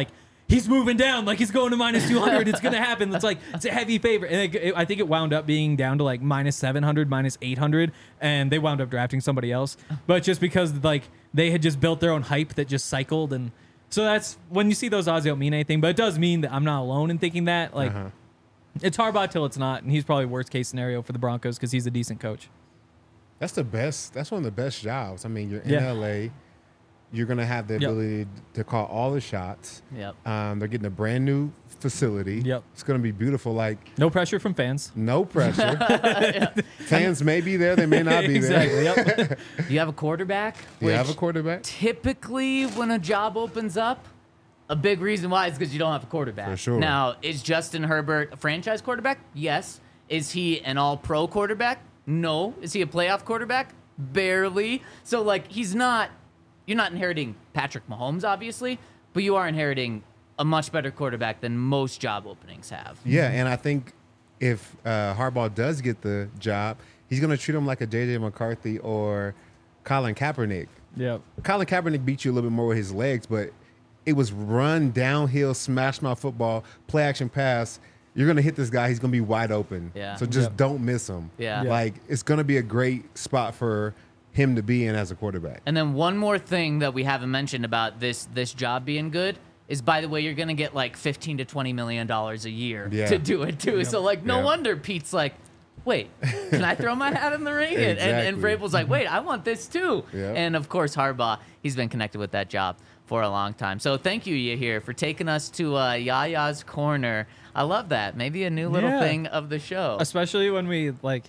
he's moving down, like he's going to minus 200. It's going to happen. It's a heavy favorite. And I think it wound up being down to like minus 700, minus 800. And they wound up drafting somebody else. But just because like they had just built their own hype that just cycled. And so that's when you see those odds, they don't mean anything. But it does mean that I'm not alone in thinking that. Like it's Harbaugh till it's not. And he's probably worst case scenario for the Broncos because he's a decent coach. That's the best. That's one of the best jobs. I mean, you're in LA. You're going to have the ability to call all the shots. Yep. They're getting a brand new facility. Yep. It's going to be beautiful. Like No pressure from fans. no pressure. Fans may be there. They may not be Exactly. there. Yep. You have a quarterback. Do you have a which quarterback? Typically, when a job opens up, a big reason why is because you don't have a quarterback. For sure. Now, is Justin Herbert a franchise quarterback? Yes. Is he an all-pro quarterback? No. Is he a playoff quarterback? Barely. So, like, you're not inheriting Patrick Mahomes, obviously, but you are inheriting a much better quarterback than most job openings have. Yeah, and I think if Harbaugh does get the job, he's going to treat him like a J.J. McCarthy or Colin Kaepernick. Yep. Colin Kaepernick beat you a little bit more with his legs, but it was run, downhill, smash mouth football, play action pass. You're going to hit this guy. He's going to be wide open. Yeah. So just don't miss him. Yeah. Like, it's going to be a great spot for him to be in as a quarterback. And then one more thing that we haven't mentioned about this job being good is, by the way, you're going to get like $15 to $20 million a year to do it too. So like, no wonder Pete's like, wait, can I throw my hat in the ring? And Vrabel's like, wait, I want this too. Yep. And of course, Harbaugh, he's been connected with that job for a long time. So thank you, Yahir, for taking us to Yaya's Corner. I love that. Maybe a new little thing of the show. Especially when we like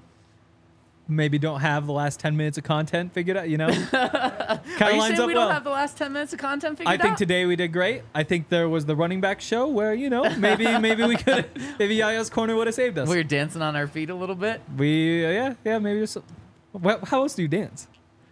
maybe don't have the last 10 minutes of content figured out, you know? Are Kind you of lines saying up we well. don't have the last 10 minutes of content figured I out? think today we did great. I think there was the running back show where, you know, maybe we could, maybe Yaya's Corner would have saved us. We were dancing on our feet a little bit. Maybe just. How else do you dance?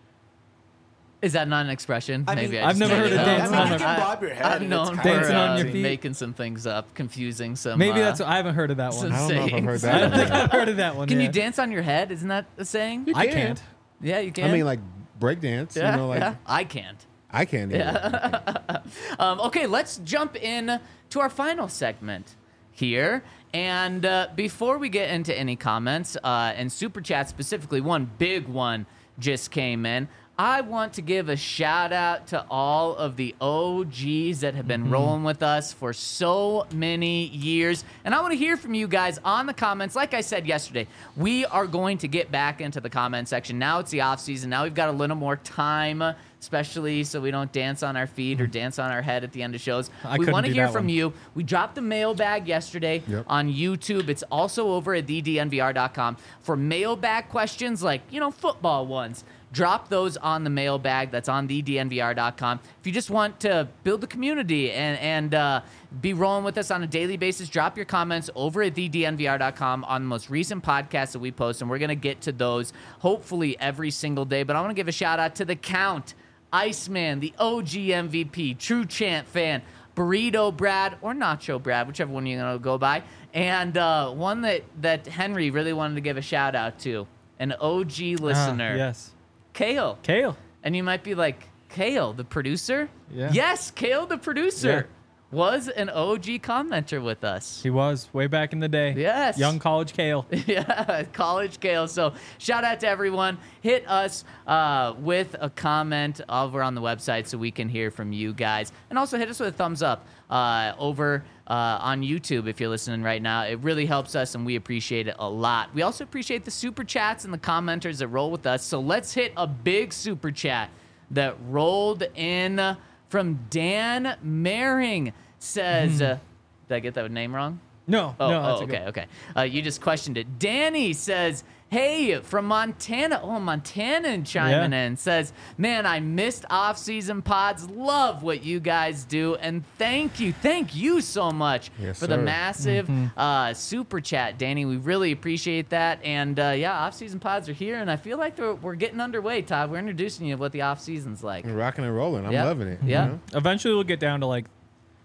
Is that not an expression? I mean, Maybe I've never heard of dancing on you my can bob your head. I'm and known it's for Dancing on your feet. making some things up, confusing some. Maybe that's. I haven't heard of that one. some I don't know if I've heard sayings. I don't that. think I've heard of that one. Can you yet. dance on your head? Isn't that a saying? I can. can't. Yeah, you can. I mean, like breakdance. yeah, You know, like yeah. I can't. I can't either. Okay, let's jump in to our final segment here. And before we get into any comments and super chat specifically, one big one just came in. I want to give a shout out to all of the OGs that have been rolling with us for so many years. And I want to hear from you guys on the comments. Like I said yesterday, we are going to get back into the comment section. Now it's the off season. Now we've got a little more time, especially so we don't dance on our feet or dance on our head at the end of shows. I We couldn't want to do hear that from one. you. We dropped the mailbag yesterday on YouTube. It's also over at thednvr.com for mailbag questions like, football ones. Drop those on the mailbag. That's on thednvr.com. If you just want to build a community and be rolling with us on a daily basis, drop your comments over at thednvr.com on the most recent podcasts that we post, and we're going to get to those hopefully every single day. But I want to give a shout out to the Count, Iceman, the OG MVP, True Chant fan, Burrito Brad, or Nacho Brad, whichever one you're going to go by, and one that Henry really wanted to give a shout out to, an OG listener. Yes. Kale. And you might be like, Kale, the producer? Yeah. Yes, Kale, the producer, was an OG commenter with us. He was way back in the day. Yes. Young college Kale. Yeah, college Kale. So shout out to everyone. Hit us with a comment over on the website so we can hear from you guys. And also hit us with a thumbs up over on YouTube if you're listening right now. It really helps us, and we appreciate it a lot. We also appreciate the super chats and the commenters that roll with us. So let's hit a big super chat that rolled in from Dan Maring. Says, did I get that name wrong? No. That's a good- Okay. You just questioned it. Danny says, hey, from Montana. Oh, Montanan chiming in. Says, man, I missed off-season pods. Love what you guys do. And thank you so much Yes, for the sir. massive super chat, Danny. We really appreciate that. And, off-season pods are here, and I feel like we're getting underway, Todd. We're introducing you to what the off-season's like. We're rocking and rolling. I'm Yep. loving it. Yeah. You know? Eventually, we'll get down to like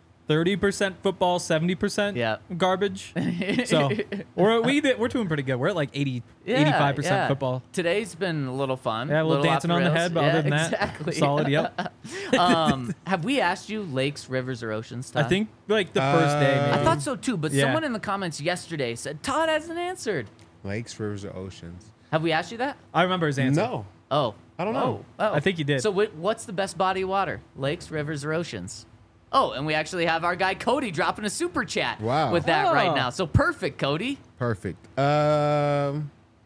30% football, 70% garbage. So we're doing pretty good. We're at like 85% football. Today's been a little fun. Yeah, a little off dancing on the rails. head, but other than exactly. that, solid. Yep. Have we asked you lakes, rivers, or oceans, Todd? I think like the first day. Maybe. I thought so too, but Yeah. someone in the comments yesterday said Todd hasn't answered. Lakes, rivers, or oceans? Have we asked you that? I remember his answer. No. Oh. I don't know. Oh. I think you did. So what's the best body of water? Lakes, rivers, or oceans? Oh, and we actually have our guy Cody dropping a super chat Wow. with that right Oh. now. So perfect, Cody. Perfect. There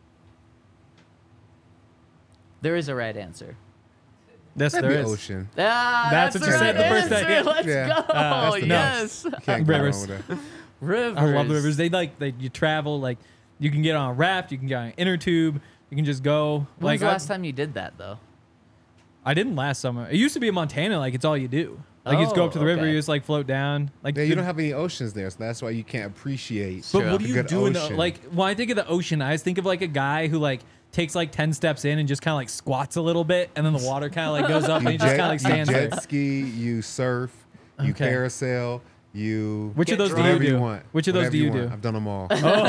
is a right answer. Yes, That'd there be is. ocean. Ah, That's that's what you the said right the first day. answer. Let's Yeah. go. That's the Yes. Can't go Rivers. wrong with that. Rivers. I love the rivers. They you travel like you can get on a raft, you can get on an inner tube, you can just go. When's Like the last time you did that, though? I didn't last summer. It used to be in Montana. Like it's all you do. Like you just go up to the river, okay. you just like float down. Like Yeah, you the- don't have any oceans there, so that's why you can't appreciate. But True. what do a you good do in the ocean. like? When I think of the ocean, I always think of like a guy who like takes like 10 steps in and just kind of like squats a little bit, and then the water kind of like goes up, and he just kind of like stands you there. jet ski, you surf, you Okay. parasail, you Which of those do you whatever do? want. Which of those Whatever do you want. do? I've done them all.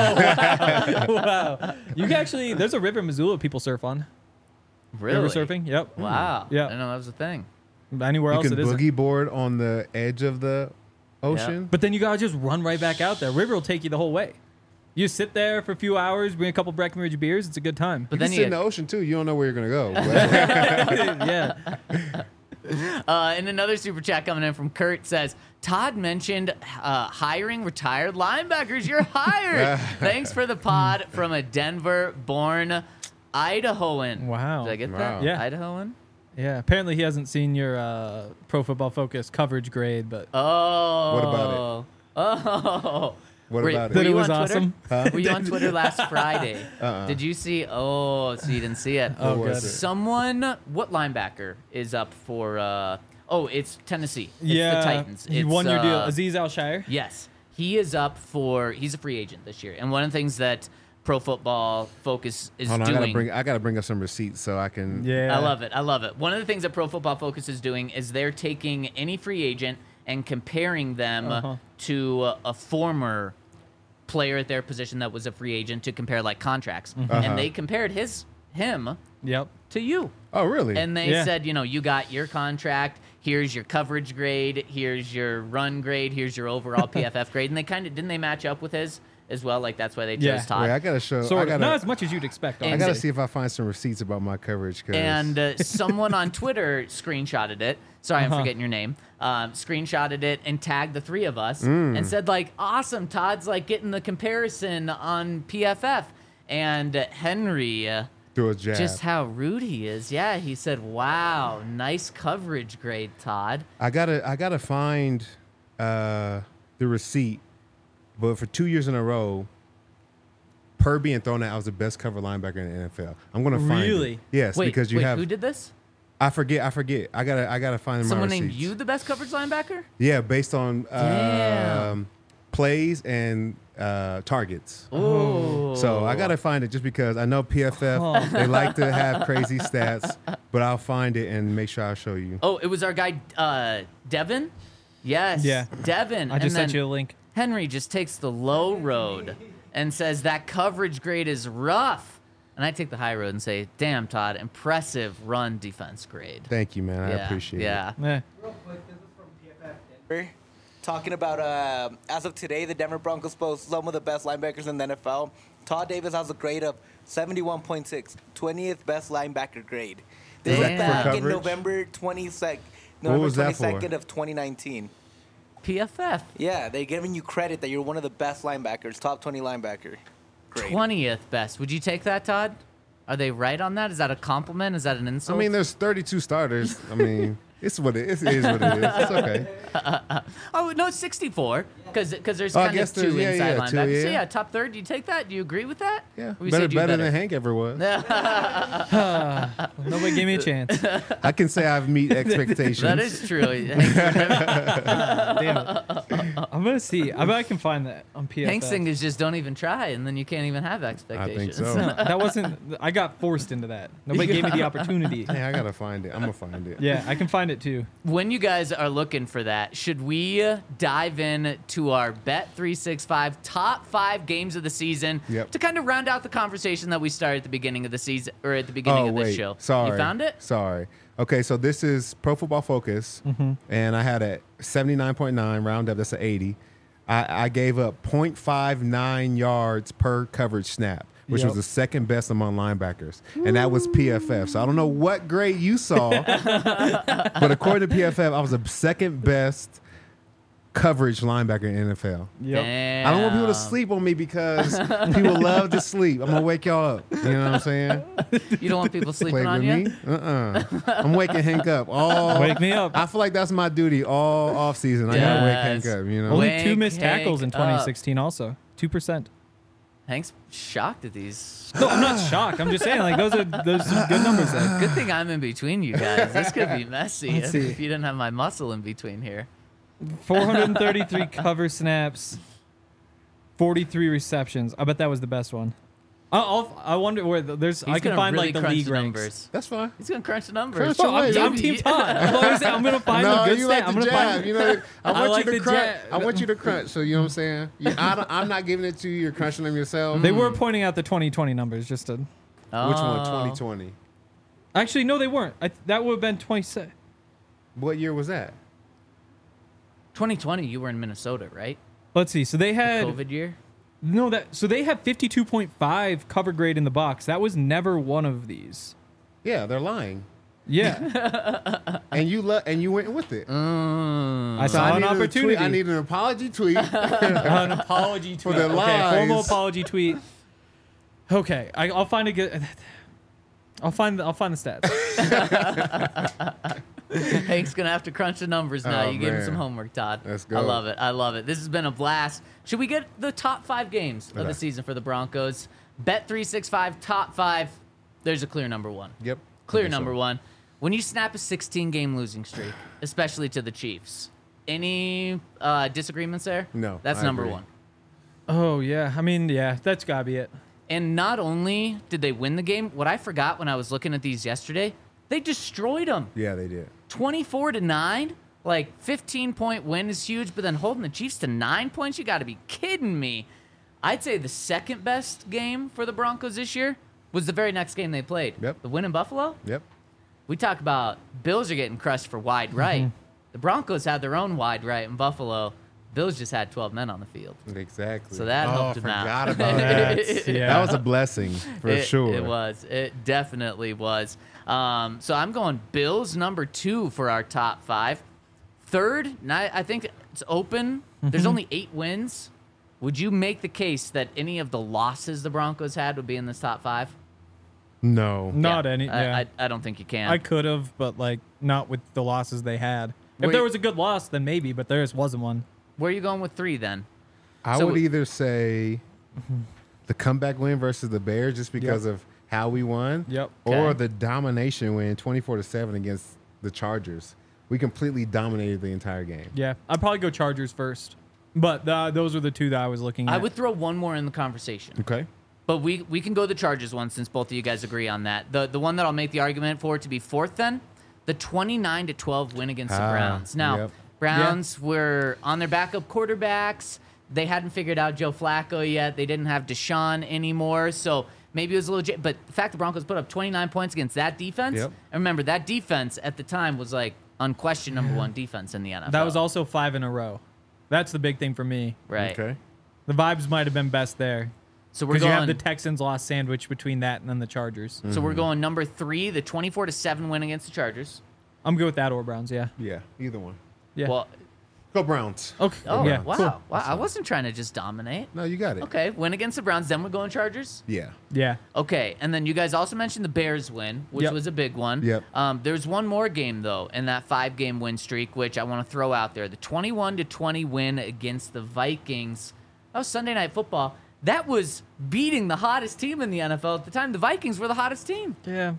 Wow, you can actually. There's a river in Missoula people surf on. Really? River surfing. Yep. Wow. Yeah. I didn't know that was a thing. Anywhere You else can it isn't. boogie board on the edge of the ocean. But then you gotta just run right back out there. River will take you the whole way. You sit there for a few hours, bring a couple Breckenridge beers. It's a good time. But You can then sit in the ocean too. You don't know where you're gonna go. Yeah. And another super chat coming in from Kurt says, Todd mentioned hiring retired linebackers. You're hired. Thanks for the pod from a Denver-born Idahoan. Wow. Did I get Wow. that? Yeah. Idahoan? Yeah. Apparently he hasn't seen your Pro Football Focus coverage grade, but Oh. What about Oh. What Were- about were That it? it you was on Twitter? awesome. Were you on Twitter last Friday? Did you see? Oh, so you didn't see it. Oh, What was good. it? Someone, what linebacker is up for? It's Tennessee. It's Yeah. the Titans. He It's, won your deal. Aziz Al-Shire. Yes, he is up for. He's a free agent this year, and one of the things that Pro Football Focus is Hold on, doing. I gotta bring up some receipts so I can. Yeah. I love it. I love it. One of the things that Pro Football Focus is doing is they're taking any free agent and comparing them to a former player at their position that was a free agent to compare like contracts. And they compared him Yep. to you. Oh, really? And they Yeah. said, you got your contract. Here's your coverage grade. Here's your run grade. Here's your overall PFF grade. And they didn't they match up with his as well? Like that's why they chose Yeah. Todd. Wait, I gotta show. Sort I of. gotta, Not as much as you'd expect. And- I honestly. gotta see if I find some receipts about my coverage. 'Cause And someone on Twitter screenshotted it. Sorry, I'm forgetting your name. Screenshotted it and tagged the three of us and said, like, awesome, Todd's like getting the comparison on PFF. And Henry, through a jab. just how rude he is. Yeah, he said, wow, nice coverage grade, Todd. I gotta find the receipt, but for 2 years in a row, per being thrown out, I was the best cover linebacker in the NFL. I'm gonna find Really? it. Yes, Wait, because you have. who did this? I forget. I gotta find Someone my named receipts. you the best coverage linebacker? Yeah, based on Damn. plays and targets. Ooh. So I gotta find it just because I know PFF they like to have crazy stats, but I'll find it and make sure I show you. Oh, it was our guy, Devin? Yes. Yeah. Devin. I just And sent then you a link. Henry just takes the low road and says that coverage grade is rough. And I take the high road and say, damn, Todd, impressive run defense grade. Thank you, man. I appreciate it. Yeah. Yeah. Real quick, this is from PFF Denver. Talking about, as of today, the Denver Broncos post some of the best linebackers in the NFL. Todd Davis has a grade of 71.6, 20th best linebacker grade. This was Damn. back For in coverage? November 22nd, What November was that for? 22nd of 2019. PFF. Yeah, they're giving you credit that you're one of the best linebackers, top 20 linebacker. Great. 20th best. Would you take that, Todd? Are they right on that? Is that a compliment? Is that an I insult? mean, there's 32 starters. I mean, it's what it is. It is what it is. It's okay. oh, no, it's 64. Because there's Oh, I kind of guess two there's- yeah, inside yeah, two, linebackers. So, yeah. yeah, top third. Do you take that? Do you agree with that? Yeah, Or you better, said you better than Hank ever was. Nobody gave me a chance. I can say I've meet expectations. That is true. Damn it. I'm gonna see. I bet I can find that on PFF. Hank's thing is just don't even try, and then you can't even have expectations. so. No, that wasn't. I got forced into that. Nobody gave me the opportunity. Hey, I gotta find it. I'm gonna find it. Yeah, I can find it too. When you guys are looking for that, should we dive in to to our Bet365 top 5 games of the season Yep. to kind of round out the conversation that we started at the beginning of the season or at the beginning of this show. Sorry. You found it? Sorry. Okay, so this is Pro Football Focus, and I had a 79.9 round up. That's an 80. I gave up 0.59 yards per coverage snap, which was the second best among linebackers, and that was PFF. So I don't know what grade you saw, but according to PFF, I was the second best coverage linebacker in the NFL. Damn. I don't want people to sleep on me because people love to sleep. I'm gonna wake y'all up. You know what I'm saying? You don't want people sleeping Play on with you? me? I'm waking Hank up. Wake me up. I feel like that's my duty all off season. I gotta wake Hank Yes. up. You know. Only Wake 2 missed tackles in Hank up. 2016 also. 2%. Hank's shocked at these. No, I'm not shocked. I'm just saying, like, those are some good numbers there. Good thing I'm in between you guys. This could be messy Let's see. if you didn't have my muscle in between here. 433 cover snaps, 43 receptions. I bet that was the best one. I wonder where there's. I He's can gonna find really like the crunch league the ranks. numbers. That's fine. He's gonna crunch the numbers. Crunch Well, away. I'm Team Todd. I'm gonna find the good you like I'm the gonna jab. find. You know, I want like you the to crunch. jab. I want you to crunch. So you know what I'm saying? I'm not giving it to you. You're crunching them yourself. They were pointing out the 2020 numbers just to. Which Oh. one? 2020. Actually, no, they weren't. That would have been 27. What year was that? 2020, you were in Minnesota, right? Let's see. So they had COVID year. So they had 52.5 cover grade in the box. That was never one of these. Yeah, they're lying. Yeah, And you went with it. I So saw I an needed a opportunity. tweet. I need an apology tweet. An apology tweet. the Okay, lies. formal apology tweet. Okay, I'll find a good. I'll find the stats. Hank's gonna have to crunch the numbers now. Oh, You gave him man. some homework, Todd. Let's go. I love it. I love it. This has been a blast. Should we get the top 5 games of Okay. the season for the Broncos? Bet365 top 5. There's a clear number 1. Yep. Clear Okay, so- number 1. When you snap a 16-game losing streak, especially to the Chiefs, any disagreements there? No, That's I number agree. 1. Oh yeah, I mean yeah, that's gotta be it. And not only did they win the game, what I forgot when I was looking at these yesterday, they destroyed them. Yeah, they did. 24-9, like 15-point win is huge, but then holding the Chiefs to 9 points, you got to be kidding me. I'd say the second best game for the Broncos this year was the very next game they played. Yep. The win in Buffalo. Yep. We talk about Bills are getting crushed for wide right. The Broncos had their own wide right in Buffalo. Bills just had 12 men on the field. Exactly. So that helped him out. forgot about that. Yeah. That was a blessing for sure. It was. It definitely was. So I'm going Bills number 2 for our top 5. Third, I think it's open. There's only 8 wins. Would you make the case that any of the losses the Broncos had would be in this top 5? No. Not Yeah. any. Yeah, I don't think you can. I could have, but like not with the losses they had. If Wait. there was a good loss, then maybe, but there just wasn't one. Where are you going with 3 then? I So- would either say the comeback win versus the Bears just because of how we won. Yep. Or Okay. the domination win 24-7 against the Chargers. We completely dominated the entire game. Yeah, I'd probably go Chargers first, but those were the 2 that I was looking at. I would throw one more in the conversation. Okay. But we can go the Chargers one since both of you guys agree on that. The one that I'll make the argument for to be 4th then, the 29-12 win against the Browns. Now, yep. Browns were on their backup quarterbacks. They hadn't figured out Joe Flacco yet. They didn't have Deshaun anymore. So maybe it was a little... But the fact the Broncos put up 29 points against that defense, Yep. and remember, that defense at the time was like unquestioned number 1 defense in the NFL. That was also 5 in a row. That's the big thing for me. right. Okay. The vibes might have been best there So we're because you going... have the Texans lost sandwich between that and then the Chargers. so we're going number 3, the 24-7 win against the Chargers. I'm good with that or Browns. Yeah. Yeah. Either one. Yeah. Well, Go Browns. okay. oh, yeah. wow. Cool. Wow. I wasn't trying to just dominate. No, you got it. Okay, win against the Browns, then we're going Chargers. Yeah. Yeah. Okay, and then you guys also mentioned the Bears win, which Yep. was a big one. Yep. There's one more game though in that 5-game win streak, which I want to throw out there: the 21-20 win against the Vikings. That was Sunday Night Football. That was beating the hottest team in the NFL at the time. The Vikings were the hottest team. Yeah.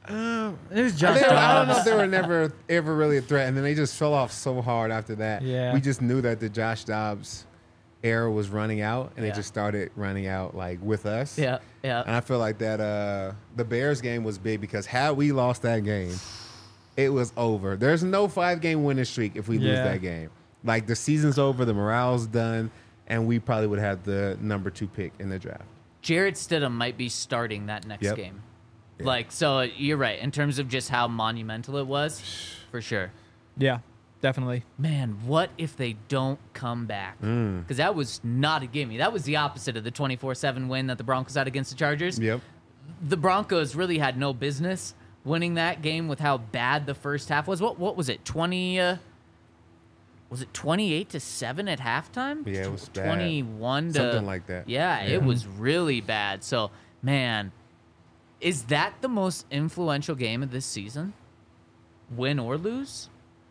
It was Josh I don't know if Dobbs. they were ever really a threat, and then they just fell off so hard after that. Yeah. We just knew that the Josh Dobbs era was running out, and Yeah. it just started running out like with us. Yeah, And yeah. I feel like that the Bears game was big because had we lost that game, it was over. There's no 5-game winning streak if we lose Yeah. that game. Like the season's over, the morale's done, and we probably would have the number 2 pick in the draft. Jarrett Stidham might be starting that next Yep. game. Yeah. Like, so you're right in terms of just how monumental it was, for sure. Yeah, definitely. Man, what if they don't come back? Because that was not a gimme. That was the opposite of the 24-7 win that the Broncos had against the Chargers. Yep. The Broncos really had no business winning that game with how bad the first half was. What was it? 28-7 at halftime? Yeah, it was bad. 21 to Something like that. Yeah, it was really bad. So, man, is that the most influential game of this season? Win or lose?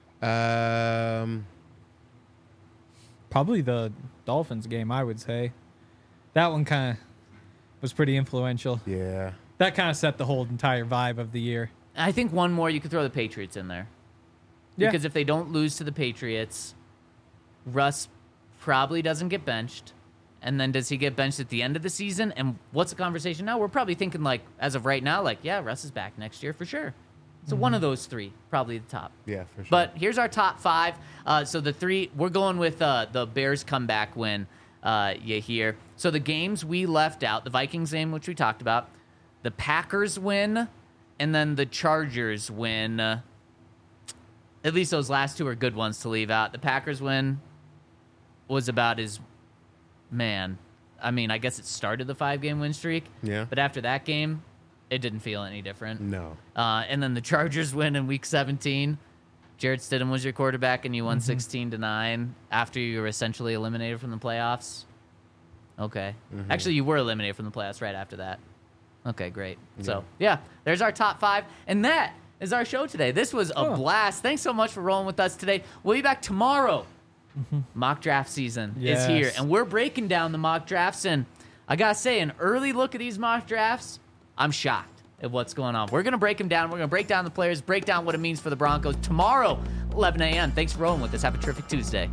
Probably the Dolphins game, I would say. That one kind of was pretty influential. Yeah. That kind of set the whole entire vibe of the year. I think one more, you could throw the Patriots in there. Yeah. Because if they don't lose to the Patriots, Russ probably doesn't get benched. And then does he get benched at the end of the season? And what's the conversation now? We're probably thinking, like, as of right now, like, yeah, Russ is back next year for sure. So one of those three, probably the top. Yeah, for sure. But here's our top 5. So the 3, we're going with the Bears comeback win, you hear. So the games we left out, the Vikings game, which we talked about, the Packers win, and then the Chargers win. At least those last 2 are good ones to leave out. The Packers win was about as, man, I mean, I guess it started the 5-game win streak. Yeah. But after that game, it didn't feel any different. No. And then the Chargers win in Week 17. Jarrett Stidham was your quarterback, and you won 16-9 after you were essentially eliminated from the playoffs. Okay. Actually, you were eliminated from the playoffs right after that. Okay, great. So, yeah, there's our top 5. And that is our show today. This was a blast. Thanks so much for rolling with us today. We'll be back tomorrow. Mock draft season is here, and we're breaking down the mock drafts. And I got to say, an early look at these mock drafts, I'm shocked at what's going on. We're going to break them down. We're going to break down the players, break down what it means for the Broncos tomorrow, 11 a.m. Thanks for rolling with us. Have a terrific Tuesday.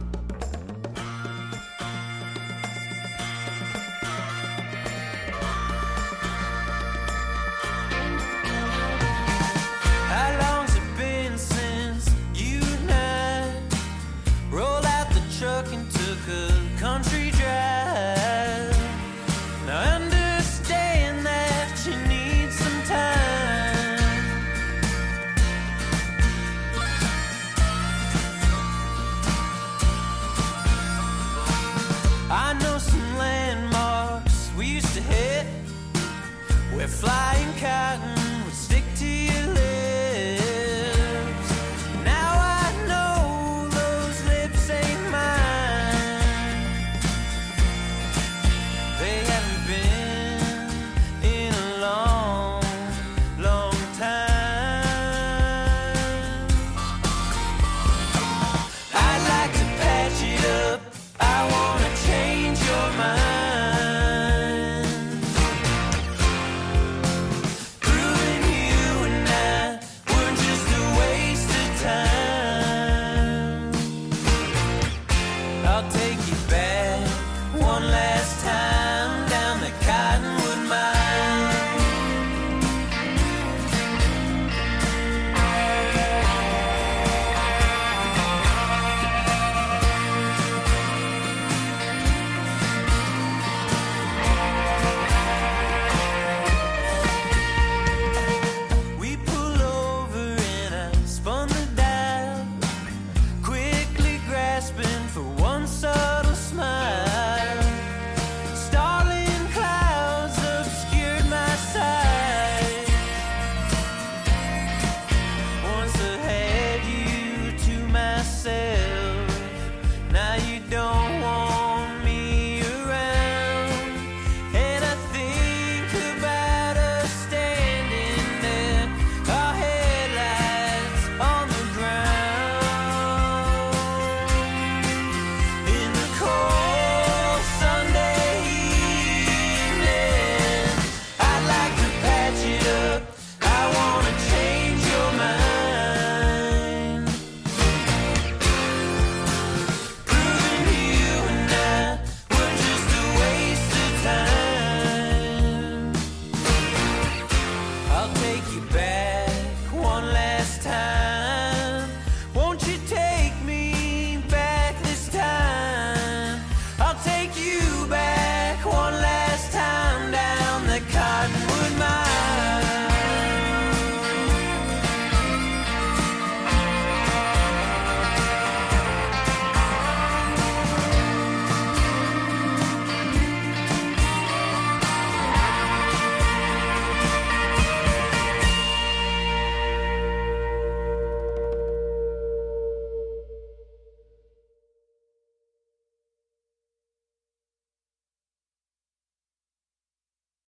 How long's it been since you and I rolled out the truck and took a country drive? Now I understand that you need some time. I know some landmarks we used to hit. We're flying cotton